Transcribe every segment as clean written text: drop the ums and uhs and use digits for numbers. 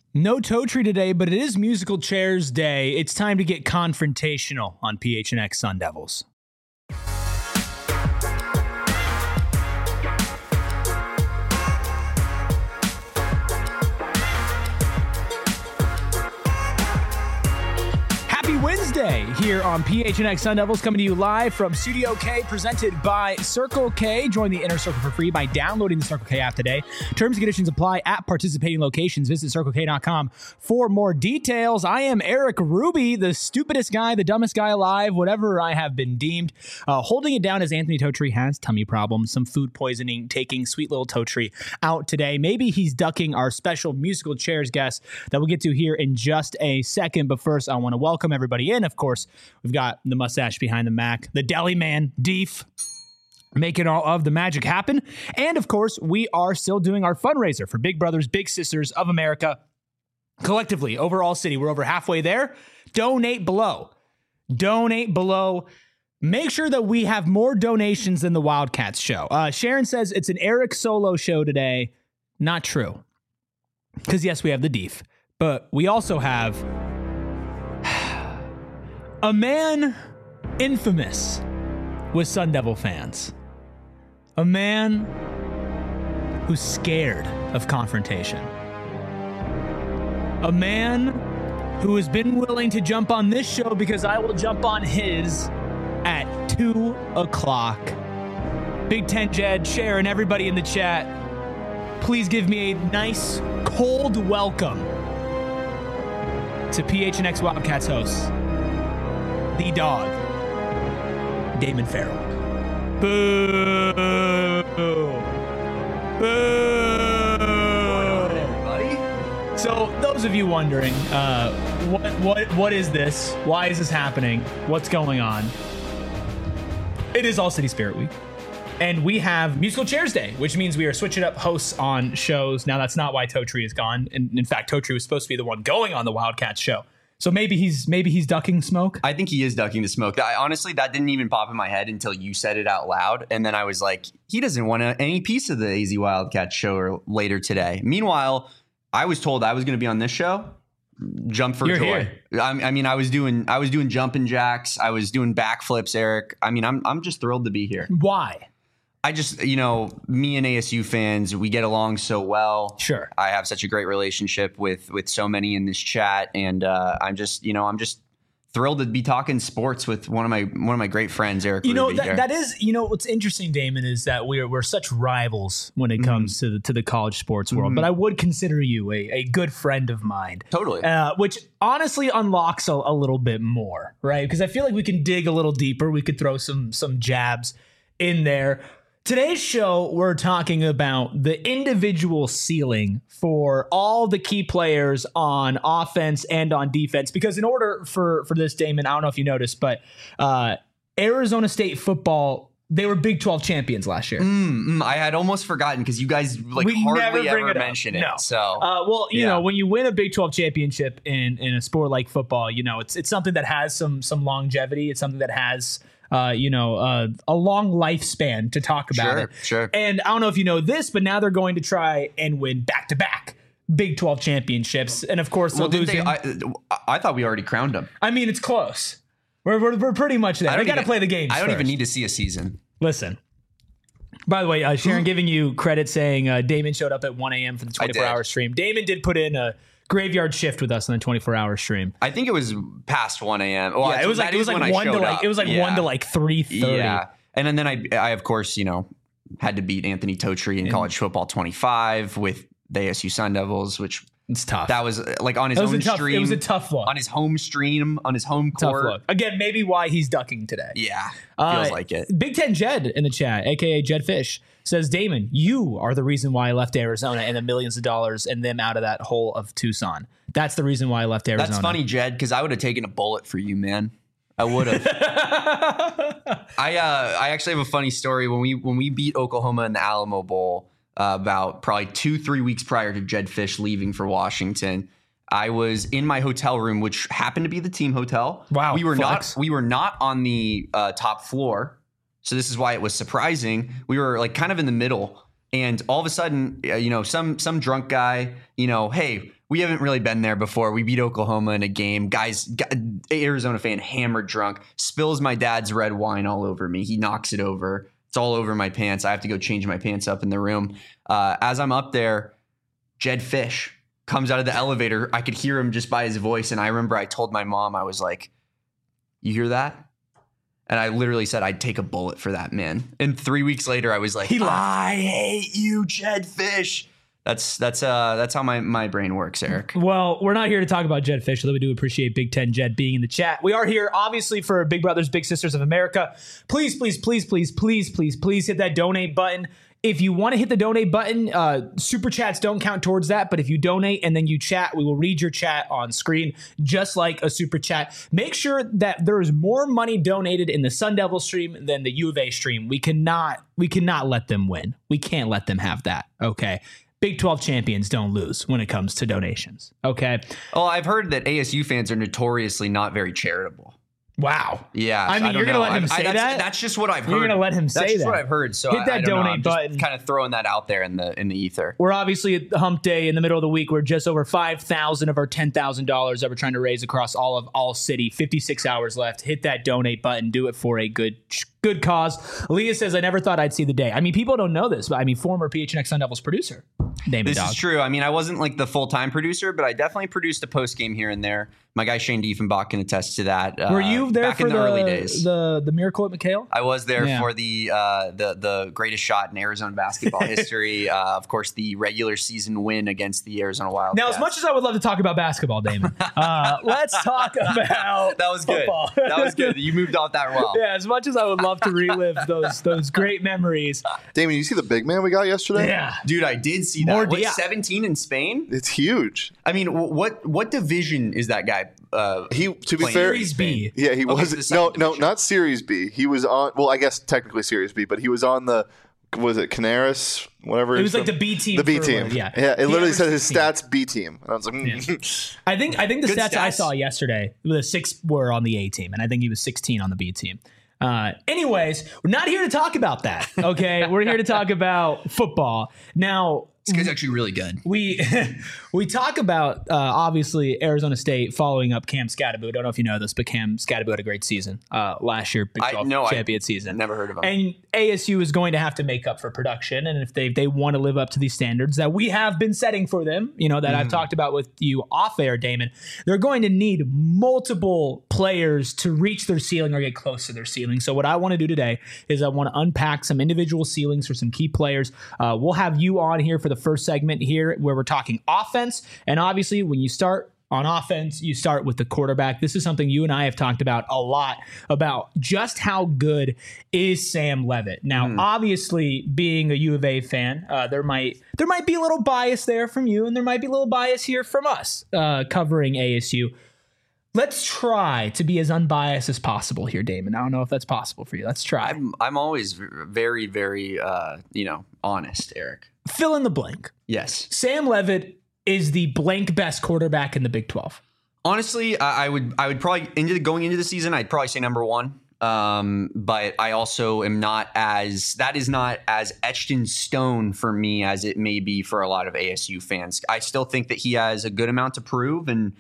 No Totri today, but it is Musical Chairs Day. It's time to get confrontational on PHNX Sun Devils. Wednesday here on PHNX Sun Devils, coming to you live from Studio K, presented by Circle K. Join the Inner Circle for free by downloading the Circle K app today. Terms and conditions apply at participating locations. Visit CircleK.com for more details. I am Eric Ruby, the stupidest guy, the dumbest guy alive, whatever I have been deemed. Holding it down as Anthony Totri has tummy problems, some food poisoning, taking sweet little Totri out today. Maybe he's ducking our special musical chairs guest that we'll get to here in just a second. But first, I want to welcome everybody in. Of course, we've got the mustache behind the Mac, the deli man, Deef, making all of the magic happen. And of course, we are still doing our fundraiser for Big Brothers Big Sisters of America. Collectively, overall city, we're over halfway there. Donate below. Donate below. Make sure that we have more donations than the Wildcats show. Sharon says it's an Eric solo show today. Not true. Because yes, we have the Deef, but we also have a man infamous with Sun Devil fans. A man who's scared of confrontation. A man who has been willing to jump on this show because I will jump on his at 2 o'clock. Big Ten Jed, Sharon, everybody in the chat, please give me a nice cold welcome to PHNX Wildcats hosts. The dog, Damon Farrell. Boo! Boo! Everybody. So, those of you wondering, what is this? Why is this happening? What's going on? It is All City Spirit Week, and we have Musical Chairs Day, which means we are switching up hosts on shows. Now, that's not why Totri is gone. And in fact, Totri was supposed to be the one going on the Wildcats show. So maybe he's ducking smoke? I think he is ducking the smoke. Honestly, that didn't even pop in my head until you said it out loud. And then I was like, he doesn't want any piece of the AZ Wildcats show later today. Meanwhile, I was told I was going to be on this show. Jump for joy. Here. I mean, I was doing jumping jacks. I was doing backflips, Eric. I mean, I'm just thrilled to be here. Why? I just, me and ASU fans, we get along so well. Sure. I have such a great relationship with so many in this chat. And I'm just thrilled to be talking sports with one of my great friends, Eric. That is, what's interesting, Damon, is that we're such rivals when it comes to the college sports world. But I would consider you a good friend of mine. Totally. Which honestly unlocks a little bit more, right? Because I feel like we can dig a little deeper. We could throw some jabs in there. Today's show, we're talking about the individual ceiling for all the key players on offense and on defense. Because in order for this, Damon, I don't know if you noticed, but Arizona State football, they were Big 12 champions last year. I had almost forgotten because you guys hardly ever mention it. No. So, you know, when you win a Big 12 championship in a sport like football, it's something that has some longevity. It's something that has a long lifespan to talk about it. Sure. And I don't know if you know this, but now they're going to try and win back-to-back Big 12 championships. And of course, I thought we already crowned them. I mean, it's close. We're pretty much there. They got to play the games. I don't first. even need to see a season. Listen. By the way, Sharon giving you credit saying Damon showed up at 1 a.m. for the 24-hour stream. Damon did put in a graveyard shift with us on the 24-hour stream. I think it was past 1 a.m. Well, yeah, it was like 1 to 3:30. Yeah. And then I of course, had to beat Anthony Totri in college football 25 with the ASU Sun Devils, which it's tough. That was like on his own stream. It was a tough look. On his home stream, on his home court. Tough look. Again, maybe why he's ducking today. Yeah. Feels like it. Big Ten Jed in the chat, aka Jed Fish, says, Damon, you are the reason why I left Arizona and the millions of dollars and them out of that hole of Tucson. That's the reason why I left Arizona. That's funny, Jed, because I would have taken a bullet for you, man. I would have. I actually have a funny story. When we beat Oklahoma in the Alamo Bowl, about probably 2-3 weeks prior to Jed Fish leaving for Washington, I was in my hotel room, which happened to be the team hotel. Wow. We were not on the top floor. So this is why it was surprising. We were like kind of in the middle, and all of a sudden, some drunk guy, hey, we haven't really been there before. We beat Oklahoma in a game. Guys, Arizona fan, hammered drunk, spills my dad's red wine all over me. He knocks it over. It's all over my pants. I have to go change my pants up in the room. As I'm up there, Jedd Fisch comes out of the elevator. I could hear him just by his voice. And I remember I told my mom, I was like, you hear that? And I literally said, I'd take a bullet for that man. And 3 weeks later, I was like, I hate you, Jedd Fisch. That's how my brain works, Eric. Well, we're not here to talk about Jedd Fisch, although we do appreciate Big Ten Jed being in the chat. We are here, obviously, for Big Brothers Big Sisters of America. Please, please, please, please, please, please, please hit that donate button. If you want to hit the donate button, super chats don't count towards that. But if you donate and then you chat, we will read your chat on screen, just like a super chat. Make sure that there is more money donated in the Sun Devil stream than the U of A stream. We cannot let them win. We can't let them have that. Okay. Big 12 champions don't lose when it comes to donations. Okay. Oh, I've heard that ASU fans are notoriously not very charitable. Wow. Yeah. I mean, you're going to let him say that? That's just what I've heard. You're going to let him say that? That's just what I've heard. So hit that donate button. Kind of throwing that out there in the ether. We're obviously at hump day in the middle of the week. We're just over $5,000 of our $10,000 that we're trying to raise across all city. 56 hours left. Hit that donate button. Do it for a good cause. Leah says, I never thought I'd see the day. I mean, people don't know this, but I mean, former PHNX Sun Devils producer. This is true. I mean, I wasn't like the full-time producer, but I definitely produced a post game here and there. My guy Shane Diefenbach can attest to that. Were you there back for in the early days? The miracle at McHale? I was there for the greatest shot in Arizona basketball history. Of course, the regular season win against the Arizona Wildcats. Now, as much as I would love to talk about basketball, Damon, let's talk about that was football. Good. That was good. You moved off that well. Yeah, as much as I would love to relive those great memories. Damon, you see the big man we got yesterday? Yeah, dude, I did see that. What, 17 in Spain? It's huge. I mean, what division is that guy? To be fair, Series B. Yeah, he was no, not Series B. He was on. Well, I guess technically Series B, but he was on the. Was it Canaris? Whatever. It was like the B team. The B team. Yeah. It literally said his stats B team. And I was like, I think the stats I saw yesterday, the 6 were on the A team, and I think he was 16 on the B team. Anyways, we're not here to talk about that. Okay, we're here to talk about football. Now, this guy's actually really good. We talk about obviously Arizona State following up Cam Skattebo. I don't know if you know this, but Cam Skattebo had a great season last year, Big 12 champion season. Never heard of him. And ASU is going to have to make up for production, and if they want to live up to these standards that we have been setting for them, that I've talked about with you off air, Damon, they're going to need multiple players to reach their ceiling or get close to their ceiling. So what I want to do today is I want to unpack some individual ceilings for some key players. We'll have you on here for the first segment here where we're talking offense. And obviously, when you start on offense, you start with the quarterback. This is something you and I have talked about a lot, about just how good is Sam Leavitt. Now, obviously, being a U of A fan, there might be a little bias there from you, and there might be a little bias here from us covering ASU. Let's try to be as unbiased as possible here, Damon. I don't know if that's possible for you. Let's try. I'm always very, very, honest, Eric. Fill in the blank. Yes. Sam Leavitt is the blank best quarterback in the Big 12. Honestly, I would probably going into the season, I'd probably say number one. But I also am that is not as etched in stone for me as it may be for a lot of ASU fans. I still think that he has a good amount to prove, and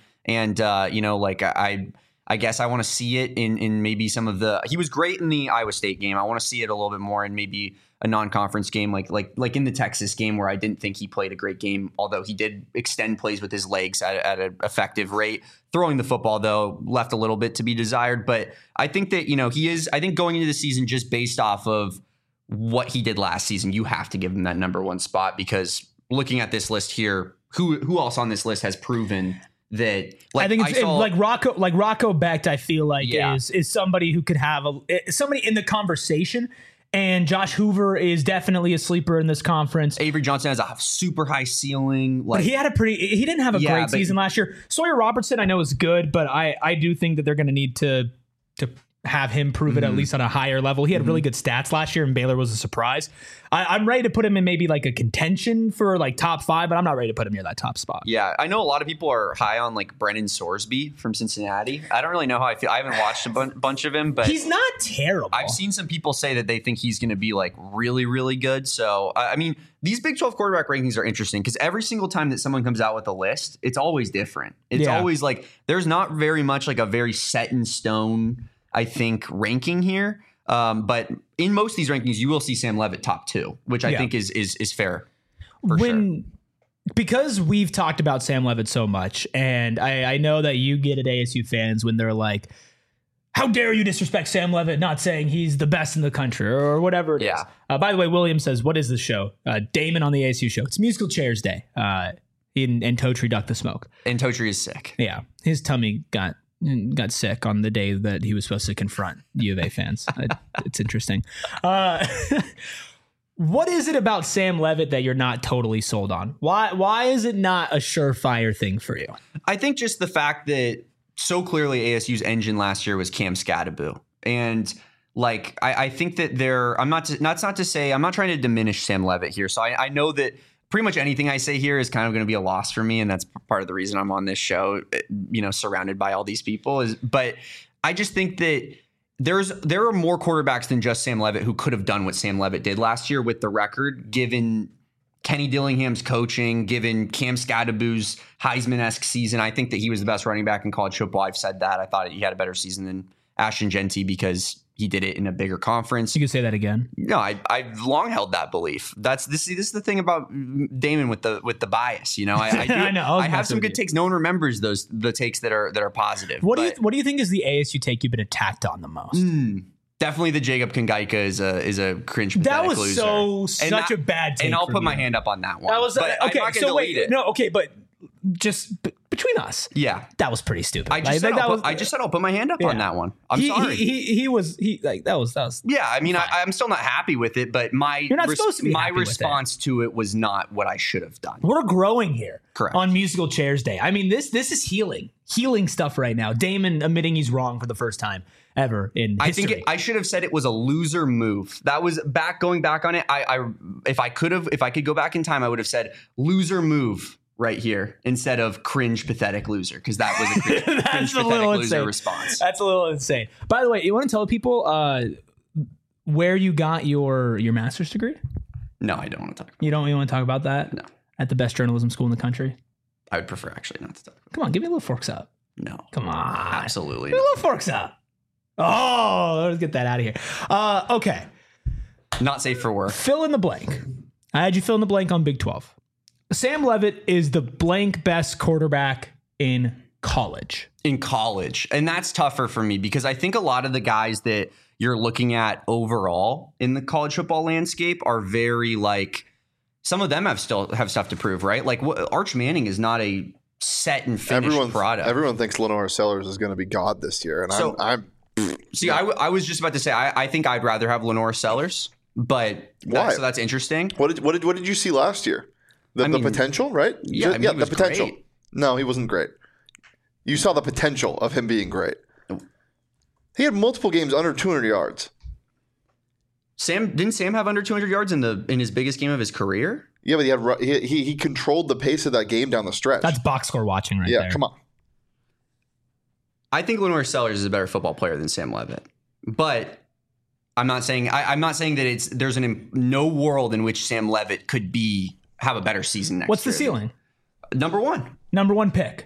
I guess I want to see it in maybe some of he was great in the Iowa State game. I want to see it a little bit more in maybe a non-conference game like in the Texas game, where I didn't think he played a great game, although he did extend plays with his legs at an effective rate. Throwing the football, though, left a little bit to be desired. But I think that, he is, I think going into the season, just based off of what he did last season, you have to give him that number one spot, because looking at this list here, who else on this list has proven that, I think it's like Rocco Becht, I feel like is somebody who could have somebody in the conversation. And Josh Hoover is definitely a sleeper in this conference. Avery Johnson has a super high ceiling. But he didn't have a great season last year. Sawyer Robertson, I know, is good, but I do think that they're going to need to have him prove it at least on a higher level. He had really good stats last year, and Baylor was a surprise. I'm ready to put him in maybe like a contention for like top 5, but I'm not ready to put him near that top spot. Yeah, I know a lot of people are high on like Brennan Sorsby from Cincinnati. I don't really know how I feel. I haven't watched a bunch of him, but he's not terrible. I've seen some people say that they think he's going to be like really, really good. So, I mean, these Big 12 quarterback rankings are interesting because every single time that someone comes out with a list, it's always different. It's always like there's not very much like a very set in stone, I think, ranking here. But in most of these rankings, you will see Sam Leavitt top 2, which I think is fair. Because we've talked about Sam Leavitt so much, and I know that you get at ASU fans when they're like, how dare you disrespect Sam Leavitt, not saying he's the best in the country or whatever it is. By the way, William says, what is this show? Damon on the ASU show. It's Musical Chairs Day. And Totri ducked the smoke. And Totri is sick. Yeah. His tummy got sick on the day that he was supposed to confront U of A fans. It's interesting. What is it about Sam Leavitt that you're not totally sold on? Why is it not a surefire thing for you? I think just the fact that so clearly ASU's engine last year was Cam Scadaboo. And like, I think that I'm not to say, I'm not trying to diminish Sam Leavitt here. So I know that pretty much anything I say here is kind of going to be a loss for me. And that's part of the reason I'm on this show, surrounded by all these people but I just think that there are more quarterbacks than just Sam Leavitt who could have done what Sam Leavitt did last year with the record, given Kenny Dillingham's coaching, given Cam Scadaboo's Heisman-esque season. I think that he was the best running back in college football. I've said that. I thought he had a better season than Ashton Jeanty because he did it in a bigger conference. You could say that again. No, I've long held that belief. This is the thing about Damon with the bias. I know. I have some good takes. No one remembers the takes that are positive. What do you think is the ASU take you've been attacked on the most? Definitely the Jacob Kongaika is a cringe pathetic that was loser. such a bad take. And I'll put my hand up on that one. That was okay. So wait, no, okay, but just between us, that was pretty stupid. I just said I'll put my hand up on that one. I'm sorry. That was. Yeah, I mean, I'm still not happy with it, but You're not supposed to be my happy with response to it was not what I should have done. We're growing here. Correct. On Musical Chairs Day. I mean, this is healing stuff right now. Damon admitting he's wrong for the first time ever in history. I think I should have said it was a loser move. That was going back on it. If I could go back in time, I would have said loser move right here instead of cringe pathetic loser, because that was a cringe pathetic loser response. That's a little insane. By the way, you want to tell people where you got your master's degree? No, I don't want to talk about You don't want to talk about that? No. At the best journalism school in the country? I would prefer actually not to talk about Come on, give me a little forks up. No. Come on. Absolutely Give me a little forks up. Oh, let's get that out of here. Okay. Not safe for work. Fill in the blank. I had you fill in the blank on Big 12. Sam Leavitt is the blank best quarterback in college. And that's tougher for me because I think a lot of the guys that you're looking at overall in the college football landscape are very like, some of them have stuff to prove, right? Like Arch Manning is not a set and finished product. Everyone thinks Lenore Sellers is going to be God this year. And I was just about to say, I think I'd rather have Lenore Sellers, but why? So that's interesting. What did you see last year? The potential, right? Yeah, the potential. Great. No, he wasn't great. You saw the potential of him being great. He had multiple games under 200 yards. Didn't Sam have under 200 yards in his biggest game of his career? Yeah, but he controlled the pace of that game down the stretch. That's box score watching right there. Yeah, come on. I think Lenore Sellers is a better football player than Sam Leavitt, but I'm not saying that there's no world in which Sam Leavitt could have a better season next year. What's the ceiling? Number one. Number one pick.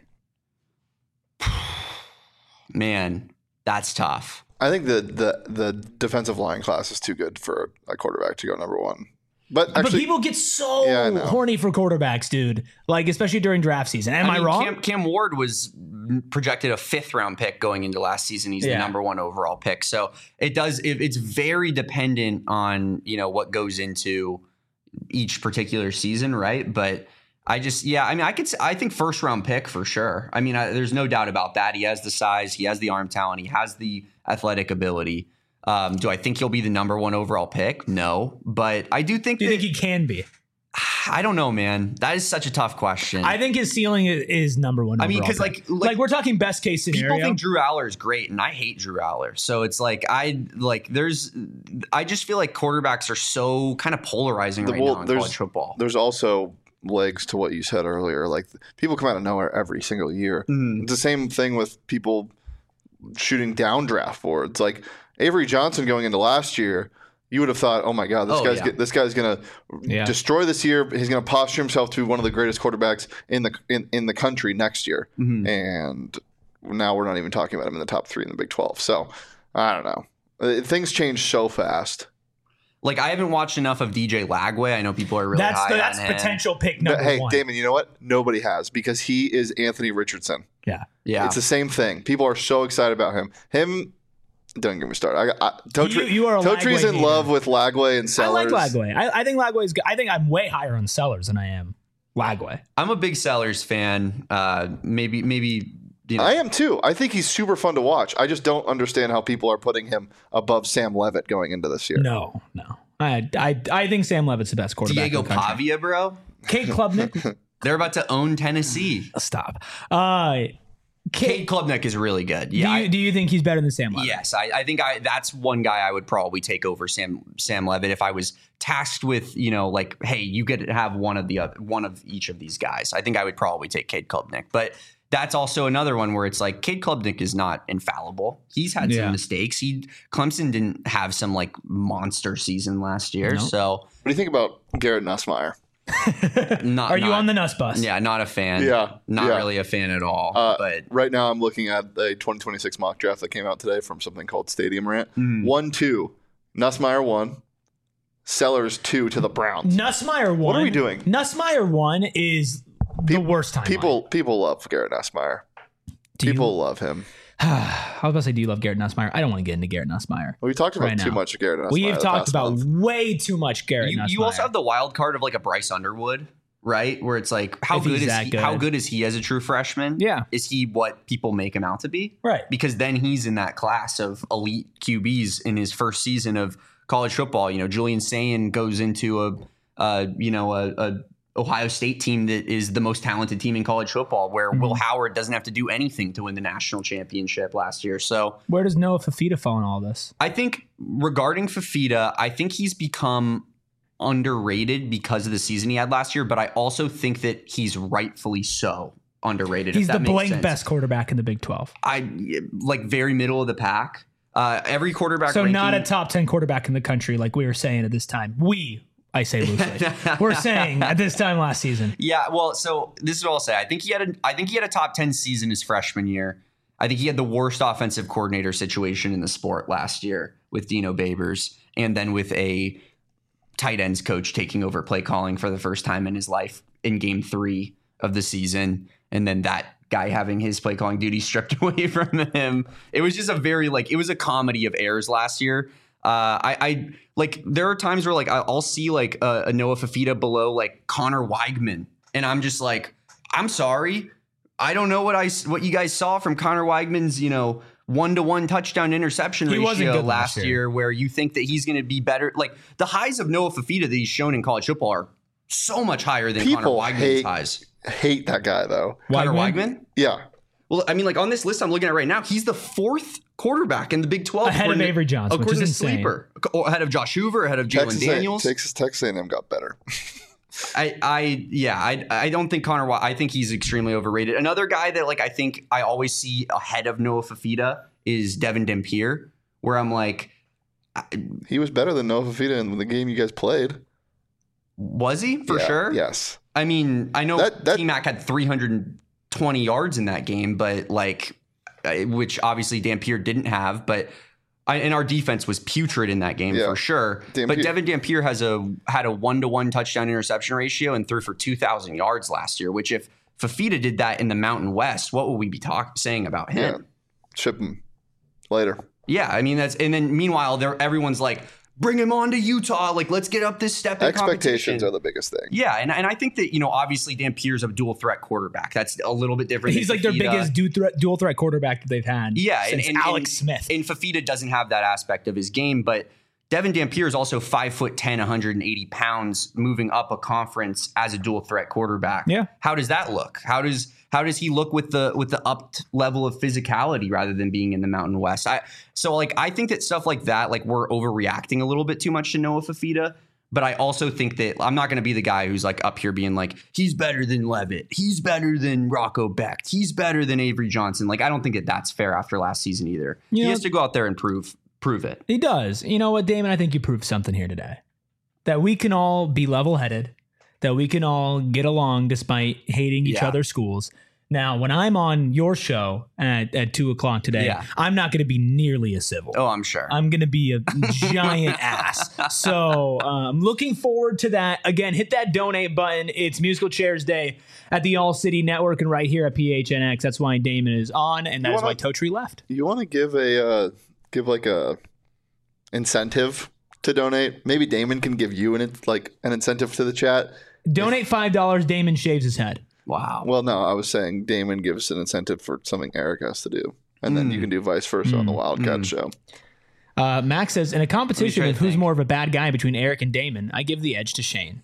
Man, that's tough. I think the defensive line class is too good for a quarterback to go number one. But people get so horny for quarterbacks, dude. Like, especially during draft season. Am I wrong? Cam Ward was projected a 5th round pick going into last season. He's the number 1 overall pick. So it's very dependent on, what goes into each particular season, right? But I think 1st round pick for sure. I mean, there's no doubt about that. He has the size, he has the arm talent, he has the athletic ability. Do I think he'll be the number 1 overall pick? No, but I do think. Do you think he can be? I don't know, man. That is such a tough question. I think his ceiling is number one. I mean, because like we're talking best case scenario. People think Drew Aller is great, and I hate Drew Aller. So it's like I just feel like quarterbacks are so kind of polarizing right now in college football. There's also legs to what you said earlier. Like people come out of nowhere every single year. It's the same thing with people shooting down draft boards. Like Avery Johnson going into last year. You would have thought, oh my God, this guy's going to destroy this year. He's going to posture himself to be one of the greatest quarterbacks in the country next year. And now we're not even talking about him in the top 3 in the Big 12. So I don't know. Things change so fast. Like I haven't watched enough of DJ Lagway. I know people are really high on him. That's potential pick number one. Hey, Damon, you know what? Nobody has because he is Anthony Richardson. Yeah. It's the same thing. People are so excited about him. Don't get me started. Totre's in love with Lagway and Sellers. I like Lagway. I think Lagway is good. I think I'm way higher on Sellers than I am Lagway. I'm a big Sellers fan. Maybe. You know. I am too. I think he's super fun to watch. I just don't understand how people are putting him above Sam Levitt going into this year. No. I think Sam Levitt's the best quarterback. Diego in the country. Pavia, bro. Cade Klubnik. They're about to own Tennessee. Stop. Cade Klubnik is really good. Yeah. Do you think he's better than Sam Levitt? Yes, I think that's one guy I would probably take over Sam Levitt if I was tasked with, like, hey, you get to have one of each of these guys. I think I would probably take Cade Klubnik, but that's also another one where it's like Cade Klubnik is not infallible. He's had some mistakes. Clemson didn't have some like monster season last year. No. So what do you think about Garrett Nussmeier? Are you on the Nuss bus? Yeah, not a fan. Not really a fan at all. But right now I'm looking at a 2026 mock draft that came out today from something called Stadium Rant. 1-2. Nussmeier 1. Sellers 2 to the Browns. Nussmeier 1. What are we doing? Nussmeier 1 is the worst time. People love Garrett Nussmeier. People love him. I was about to say, do you love Garrett Nussmeier? I don't want to get into Garrett Nussmeier. We talked about too much of Garrett Nussmeier. We've talked about way too much Garrett Nussmeier. You also have the wild card of like a Bryce Underwood, right? Where it's like, how good is he as a true freshman? Yeah. Is he what people make him out to be? Right. Because then he's in that class of elite QBs in his first season of college football. Julian Sayin goes into a Ohio State team that is the most talented team in college football, where Will Howard doesn't have to do anything to win the national championship last year. So where does Noah Fifita fall in all this? I think regarding Fifita, I think he's become underrated because of the season he had last year, but I also think that he's rightfully so underrated. He's the blank best quarterback in the Big 12. Very middle of the pack. Every quarterback. So not a top 10 quarterback in the country, like we were saying at this time. I say loosely. We're saying at this time last season. Yeah, well, so this is what I'll say. I think he had a top 10 season his freshman year. I think he had the worst offensive coordinator situation in the sport last year with Dino Babers, and then with a tight ends coach taking over play calling for the first time in his life in game 3 of the season, and then that guy having his play calling duty stripped away from him. It was just it was a comedy of errors last year. I there are times where like I'll see like a Noah Fifita below like Connor Weigman, and I'm just like, I'm sorry, I don't know what you guys saw from Connor Weigman's 1-to-1 touchdown interception ratio last year, where you think that he's going to be better. Like the highs of Noah Fifita that he's shown in college football are so much higher than Connor Weigman's highs. Hate that guy though. Connor Weigman? Yeah. Well, I mean, like on this list I'm looking at right now, he's the 4th quarterback in the Big 12. Ahead of Avery Johnson, which is insane. Sleeper. Ahead of Josh Hoover, ahead of Jalen Daniels. Texas A&M got better. I don't think I think he's extremely overrated. Another guy that like I think I always see ahead of Noah Fifita is Devin Dampier, where I'm like, he was better than Noah Fifita in the game you guys played. Was he? For sure? Yes. I mean, I know T-Mac had 320 yards in that game, but like, which obviously Dampier didn't have, but and our defense was putrid in that game for sure. But Devin Dampier had a 1-to-1 touchdown interception ratio and threw for 2,000 yards last year, which if Fifita did that in the Mountain West, what would we be saying about him? Yeah. Ship him later. Yeah, I mean, and then meanwhile, everyone's like, bring him on to Utah. Like, let's get up this step in Expectations are the biggest thing. Yeah, and I think that, obviously Dampier's a dual threat quarterback. That's a little bit different. He's like their biggest dual threat quarterback that they've had. Yeah, since Alex Smith. And Fifita doesn't have that aspect of his game, but Devin Dampier is also 5'10", 180 pounds, moving up a conference as a dual threat quarterback. Yeah. How does that look? How does he look with the upped level of physicality rather than being in the Mountain West? I think that stuff like that, like we're overreacting a little bit too much to Noah Fifita. But I also think that I'm not going to be the guy who's like up here being like, he's better than Levitt. He's better than Rocco Becht. He's better than Avery Johnson. Like, I don't think that that's fair after last season either. He has to go out there and prove it. He does. You know what, Damon? I think you proved something here today. That we can all be level-headed. That we can all get along despite hating each other's schools. Now, when I'm on your show at 2 o'clock today, I'm not going to be nearly as civil. Oh, I'm sure. I'm going to be a giant ass. So I'm looking forward to that. Again, hit that donate button. It's Musical Chairs Day at the All City Network and right here at PHNX. That's why Damon is on, and that's why Totri left. You want to give a incentive to donate? Maybe Damon can give you an incentive to the chat. Donate $5. Damon shaves his head. Wow. Well, no, I was saying Damon gives an incentive for something Eric has to do. And then you can do vice versa on the Wildcat show. Max says, in a competition of who's more of a bad guy between Eric and Damon, I give the edge to Shane.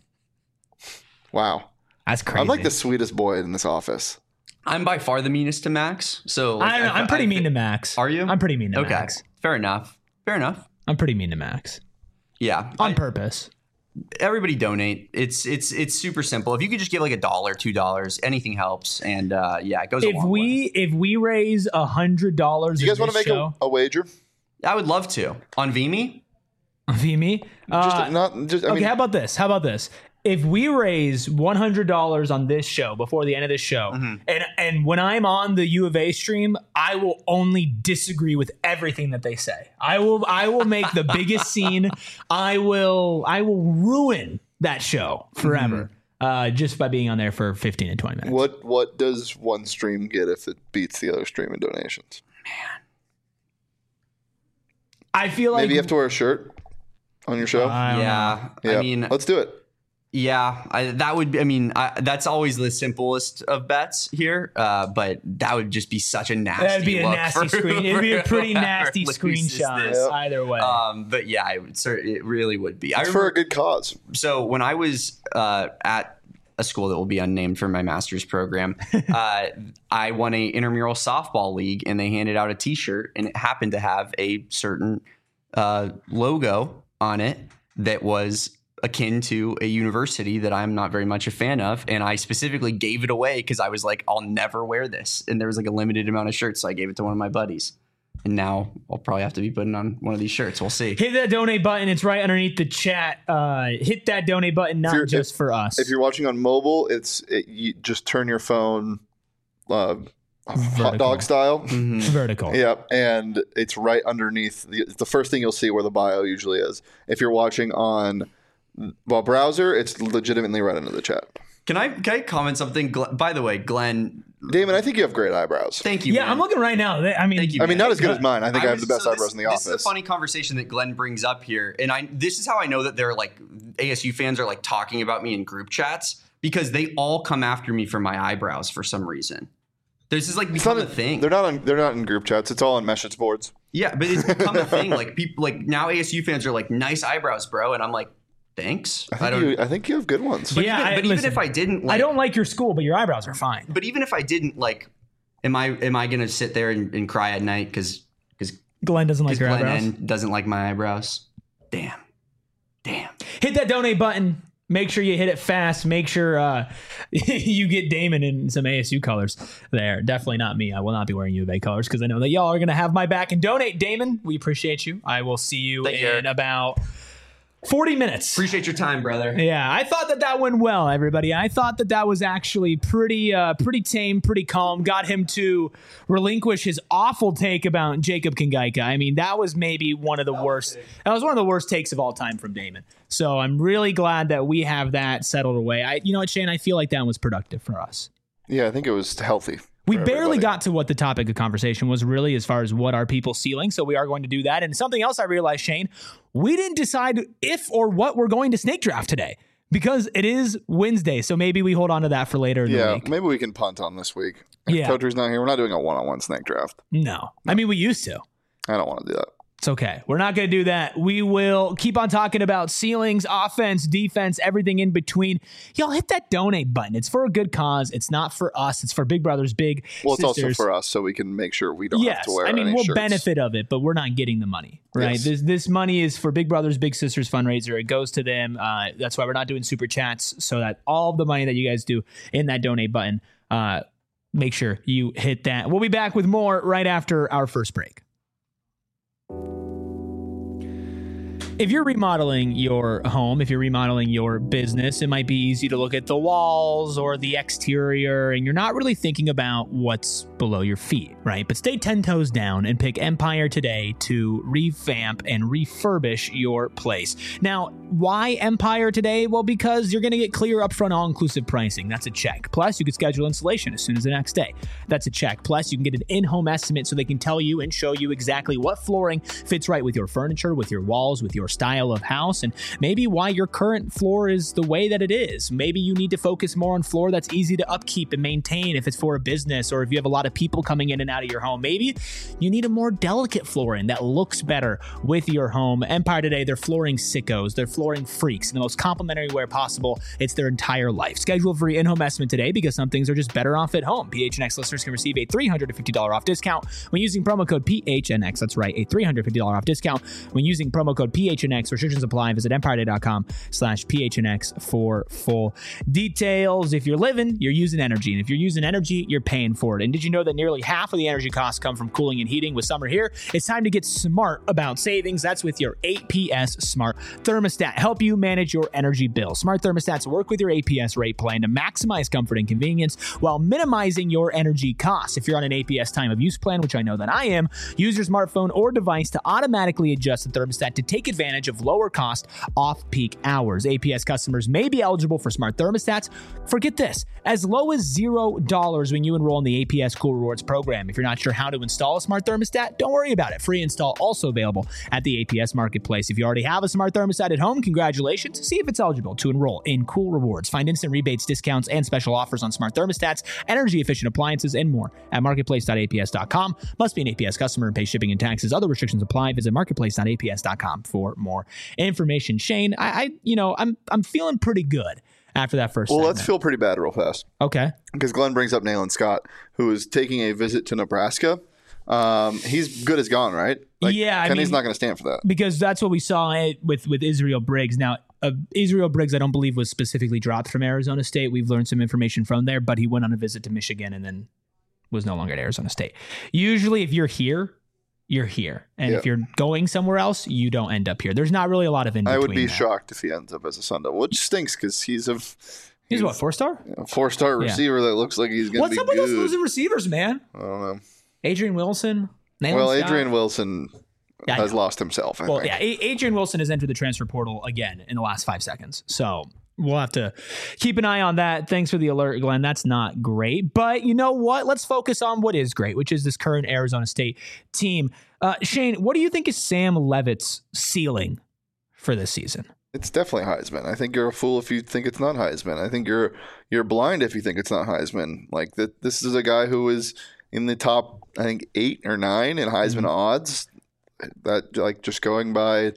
Wow. That's crazy. I'm like the sweetest boy in this office. I'm by far the meanest to Max. So like, I'm pretty mean to Max. Are you? I'm pretty mean to Max. Fair enough. I'm pretty mean to Max. Yeah. On purpose. Everybody donate. It's super simple. If you could just give like $1, $2, anything helps. And it goes a long way. If we raise $100, you guys want to make a wager? I would love to. On Vimy? Vimy? Okay, how about this? If we raise $100 on this show before the end of this show, and when I'm on the U of A stream, I will only disagree with everything that they say. I will make the biggest scene. I will ruin that show forever. Just by being on there for 15 and 20 minutes. What does one stream get if it beats the other stream in donations? Man. I feel like maybe you have to wear a shirt on your show. Yeah. I mean, let's do it. Yeah, that's always the simplest of bets here, but that would just be such a nasty That'd be a look nasty screen. It'd be a pretty nasty screenshot either way. But yeah, it really would be. It's for a good cause. So when I was at a school that will be unnamed for my master's program, I won a intramural softball league, and they handed out a T-shirt, and it happened to have a certain logo on it that was akin to a university that I'm not very much a fan of. And I specifically gave it away because I was like, I'll never wear this. And there was like a limited amount of shirts. So I gave it to one of my buddies. And now I'll probably have to be putting on one of these shirts. We'll see. Hit that donate button. It's right underneath the chat. Hit that donate button, not just for us. If you're watching on mobile, you just turn your phone hot dog style. Vertical. Yep. And it's right underneath. It's the first thing you'll see where the bio usually is. If you're watching on browser, it's legitimately right under the chat. Can I comment something? By the way, Glenn. Damon, I think you have great eyebrows. Thank you. Yeah, man. I'm looking right now. Thank you, I mean, not as good as mine. I think I have the best eyebrows in the office. This is a funny conversation that Glenn brings up here. And this is how I know that they're like ASU fans are like talking about me in group chats, because they all come after me for my eyebrows for some reason. This is like become a thing. They're not in group chats. It's all on message boards. Yeah, but it's become a thing. Like people, like now ASU fans are like, nice eyebrows, bro. And I'm like, thanks. I think you have good ones. But even if I didn't, like, I don't like your school, but your eyebrows are fine. But even if I didn't, like, am I gonna sit there and cry at night because Glenn doesn't like your eyebrows? Glenn doesn't like my eyebrows. Damn. Hit that donate button. Make sure you hit it fast. Make sure you get Damon in some ASU colors there. Definitely not me. I will not be wearing U of A colors because I know that y'all are going to have my back. And donate, Damon. We appreciate you. I will see you in about 40 minutes. Appreciate your time, brother. Yeah, I thought that went well, everybody. I thought that was actually pretty tame, pretty calm. Got him to relinquish his awful take about Jacob Kingaika. I mean, that was maybe one of the worst. That was one of the worst takes of all time from Damon. So I'm really glad that we have that settled away. You know what, Shane? I feel like that was productive for us. Yeah, I think it was healthy. We barely got to what the topic of conversation was really, as far as what are people ceiling. So we are going to do that. And something else I realized, Shane, we didn't decide if or what we're going to snake draft today because it is Wednesday. So maybe we hold on to that for later in the week. Maybe we can punt on this week. If Totri's not here, we're not doing a one-on-one snake draft. No. I mean, we used to. I don't want to do that. It's okay. We're not going to do that. We will keep on talking about ceilings, offense, defense, everything in between. Y'all hit that donate button. It's for a good cause. It's not for us. It's for Big Brothers Big Well, it's Sisters. also for us, so we can make sure we don't have to wear any we'll shirts. benefit of it, but we're not getting the money, right? Yes. This money is for Big Brothers Big Sisters fundraiser. It goes to them. That's why we're not doing super chats, so that all of the money that you guys do in that donate button, make sure you hit that. We'll be back with more right after our first break. If you're remodeling your home, if you're remodeling your business, it might be easy to look at the walls or the exterior, and you're not really thinking about what's below your feet, right? But stay 10 toes down and pick Empire today to revamp and refurbish your place. Now, why Empire today? Well, because you're going to get clear upfront all-inclusive pricing. That's a check. Plus, you can schedule installation as soon as the next day. That's a check. Plus, you can get an in-home estimate so they can tell you and show you exactly what flooring fits right with your furniture, with your walls, with your style of house, and maybe why your current floor is the way that it is. Maybe you need to focus more on floor that's easy to upkeep and maintain if it's for a business or if you have a lot of people coming in and out of your home. Maybe you need a more delicate flooring that looks better with your home. Empire today, they're flooring sickos, they're flooring freaks in the most complimentary way possible. It's their entire life. Schedule a free in-home estimate today because some things are just better off at home. PHNX listeners can receive a $350 off discount when using promo code PHNX. That's right, a $350 off discount when using promo code PHNX. Restrictions apply. Visit empireday.com/PHNX for full details. If you're living, you're using energy. And if you're using energy, you're paying for it. And did you know that nearly half of the energy costs come from cooling and heating? With summer here, it's time to get smart about savings. That's with your APS Smart Thermostat. Help you manage your energy bill. Smart thermostats work with your APS rate plan to maximize comfort and convenience while minimizing your energy costs. If you're on an APS time of use plan, which I know that I am, use your smartphone or device to automatically adjust the thermostat to take advantage of lower cost off-peak hours. APS customers may be eligible for smart thermostats. Forget this, as low as $0 when you enroll in the APS Cool Rewards program. If you're not sure how to install a smart thermostat, don't worry about it. Free install also available at the APS Marketplace. If you already have a smart thermostat at home, congratulations. See if it's eligible to enroll in Cool Rewards. Find instant rebates, discounts, and special offers on smart thermostats, energy-efficient appliances, and more at marketplace.aps.com. Must be an APS customer and pay shipping and taxes. Other restrictions apply. Visit marketplace.aps.com for more information. Shane, I'm feeling pretty good after that first segment. Let's feel pretty bad real fast. Okay. Because Glenn brings up Nayland Scott, who is taking a visit to Nebraska. He's good as gone, right? Kenny's not going to stand for that. Because that's what we saw with Israel Briggs. Now, Israel Briggs, I don't believe, was specifically dropped from Arizona State. We've learned some information from there, but he went on a visit to Michigan and then was no longer at Arizona State. Usually, if you're here, you're here. And if you're going somewhere else, you don't end up here. There's not really a lot of in between. I would be shocked if he ends up as a Sun Devil, which stinks because he's what, 4-star? A 4-star receiver that looks like he's going to be good. What's up with those losing receivers, man? I don't know. Adrian Wilson? Adrian Wilson has lost himself, I think. Adrian Wilson has entered the transfer portal again in the last 5 seconds. So we'll have to keep an eye on that. Thanks for the alert, Glenn. That's not great. But you know what? Let's focus on what is great, which is this current Arizona State team. Shane, what do you think is Sam Leavitt's ceiling for this season? It's definitely Heisman. I think you're a fool if you think it's not Heisman. I think you're blind if you think it's not Heisman. Like this is a guy who is in the top, I think, 8 or 9 in Heisman odds. That, like, just going by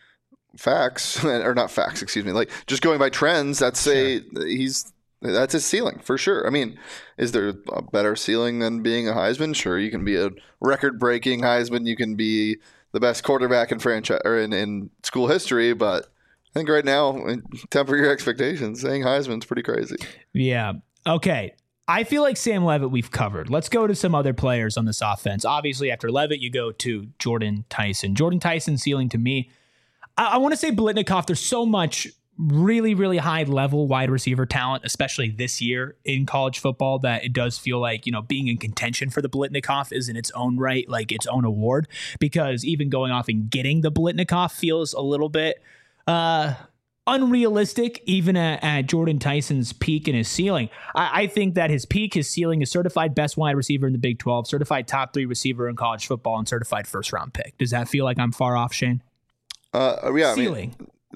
facts, or not facts, excuse me, like just going by trends, that's his ceiling for sure. I mean, is there a better ceiling than being a Heisman? Sure, you can be a record-breaking Heisman, you can be the best quarterback in franchise or in school history, but I think right now, temper your expectations. Saying Heisman's pretty crazy. Yeah. Okay. I feel like Sam Leavitt we've covered. Let's go to some other players on this offense. Obviously, after Leavitt, you go to Jordan Tyson. Jordan Tyson's ceiling to me, I want to say Biletnikoff. There's so much really, really high level wide receiver talent, especially this year in college football, that it does feel like, being in contention for the Biletnikoff is in its own right, like its own award, because even going off and getting the Biletnikoff feels a little bit unrealistic, even at Jordan Tyson's peak and his ceiling. I think that his peak, his ceiling is certified best wide receiver in the Big 12, certified top 3 receiver in college football, and certified first round pick. Does that feel like I'm far off, Shane? Ceiling.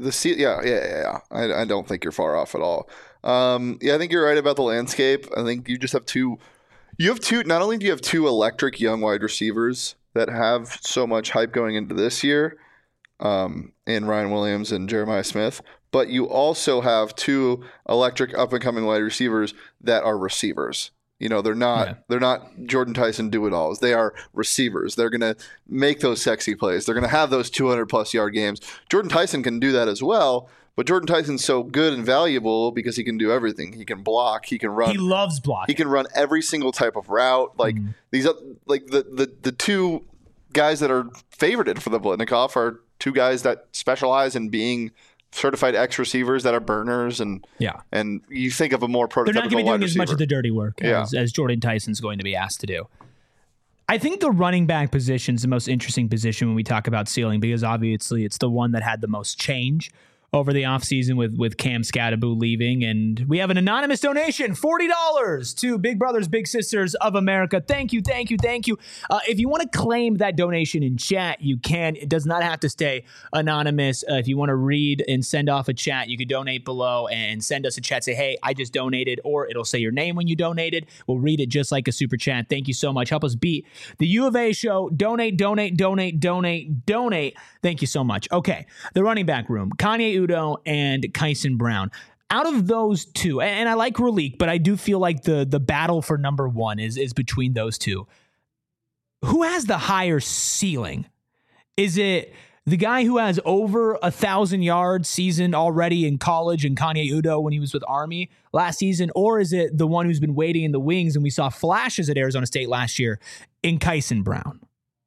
I don't think you're far off at all. I think you're right about the landscape. I think you just have two. Not only do you have 2 electric young wide receivers that have so much hype going into this year in Ryan Williams and Jeremiah Smith, but you also have two electric up-and-coming wide receivers that are receivers. They're not Jordan Tyson do-it-alls. They are receivers. They're going to make those sexy plays. They're going to have those 200-plus yard games. Jordan Tyson can do that as well, but Jordan Tyson's so good and valuable because he can do everything. He can block. He can run. He loves blocking. He can run every single type of route. These, the two guys that are favorited for the Biletnikoff are two guys that specialize in being certified X receivers that are burners, and you think of a more prototypical. They're not going to be doing as much of the dirty work as Jordan Tyson's going to be asked to do. I think the running back position is the most interesting position when we talk about ceiling, because obviously it's the one that had the most change over the offseason with Cam Scatterbo leaving. And we have an anonymous donation, $40 to Big Brothers Big Sisters of America. Thank you. If you want to claim that donation in chat, you can. It does not have to stay anonymous. If you want to read and send off a chat, you could donate below and send us a chat. Say, hey, I just donated, or it'll say your name when you donated. We'll read it just like a super chat. Thank you so much. Help us beat the U of A show. Donate. Thank you so much. Okay, the running back room. Kanye Udoh and Kyson Brown. Out of those two, and I like Raleek, but I do feel like the battle for number one is between those two. Who has the higher ceiling? Is it the guy who has over 1,000 yards season already in college and Kanye Udoh when he was with Army last season? Or is it the one who's been waiting in the wings and we saw flashes at Arizona State last year in Kyson Brown?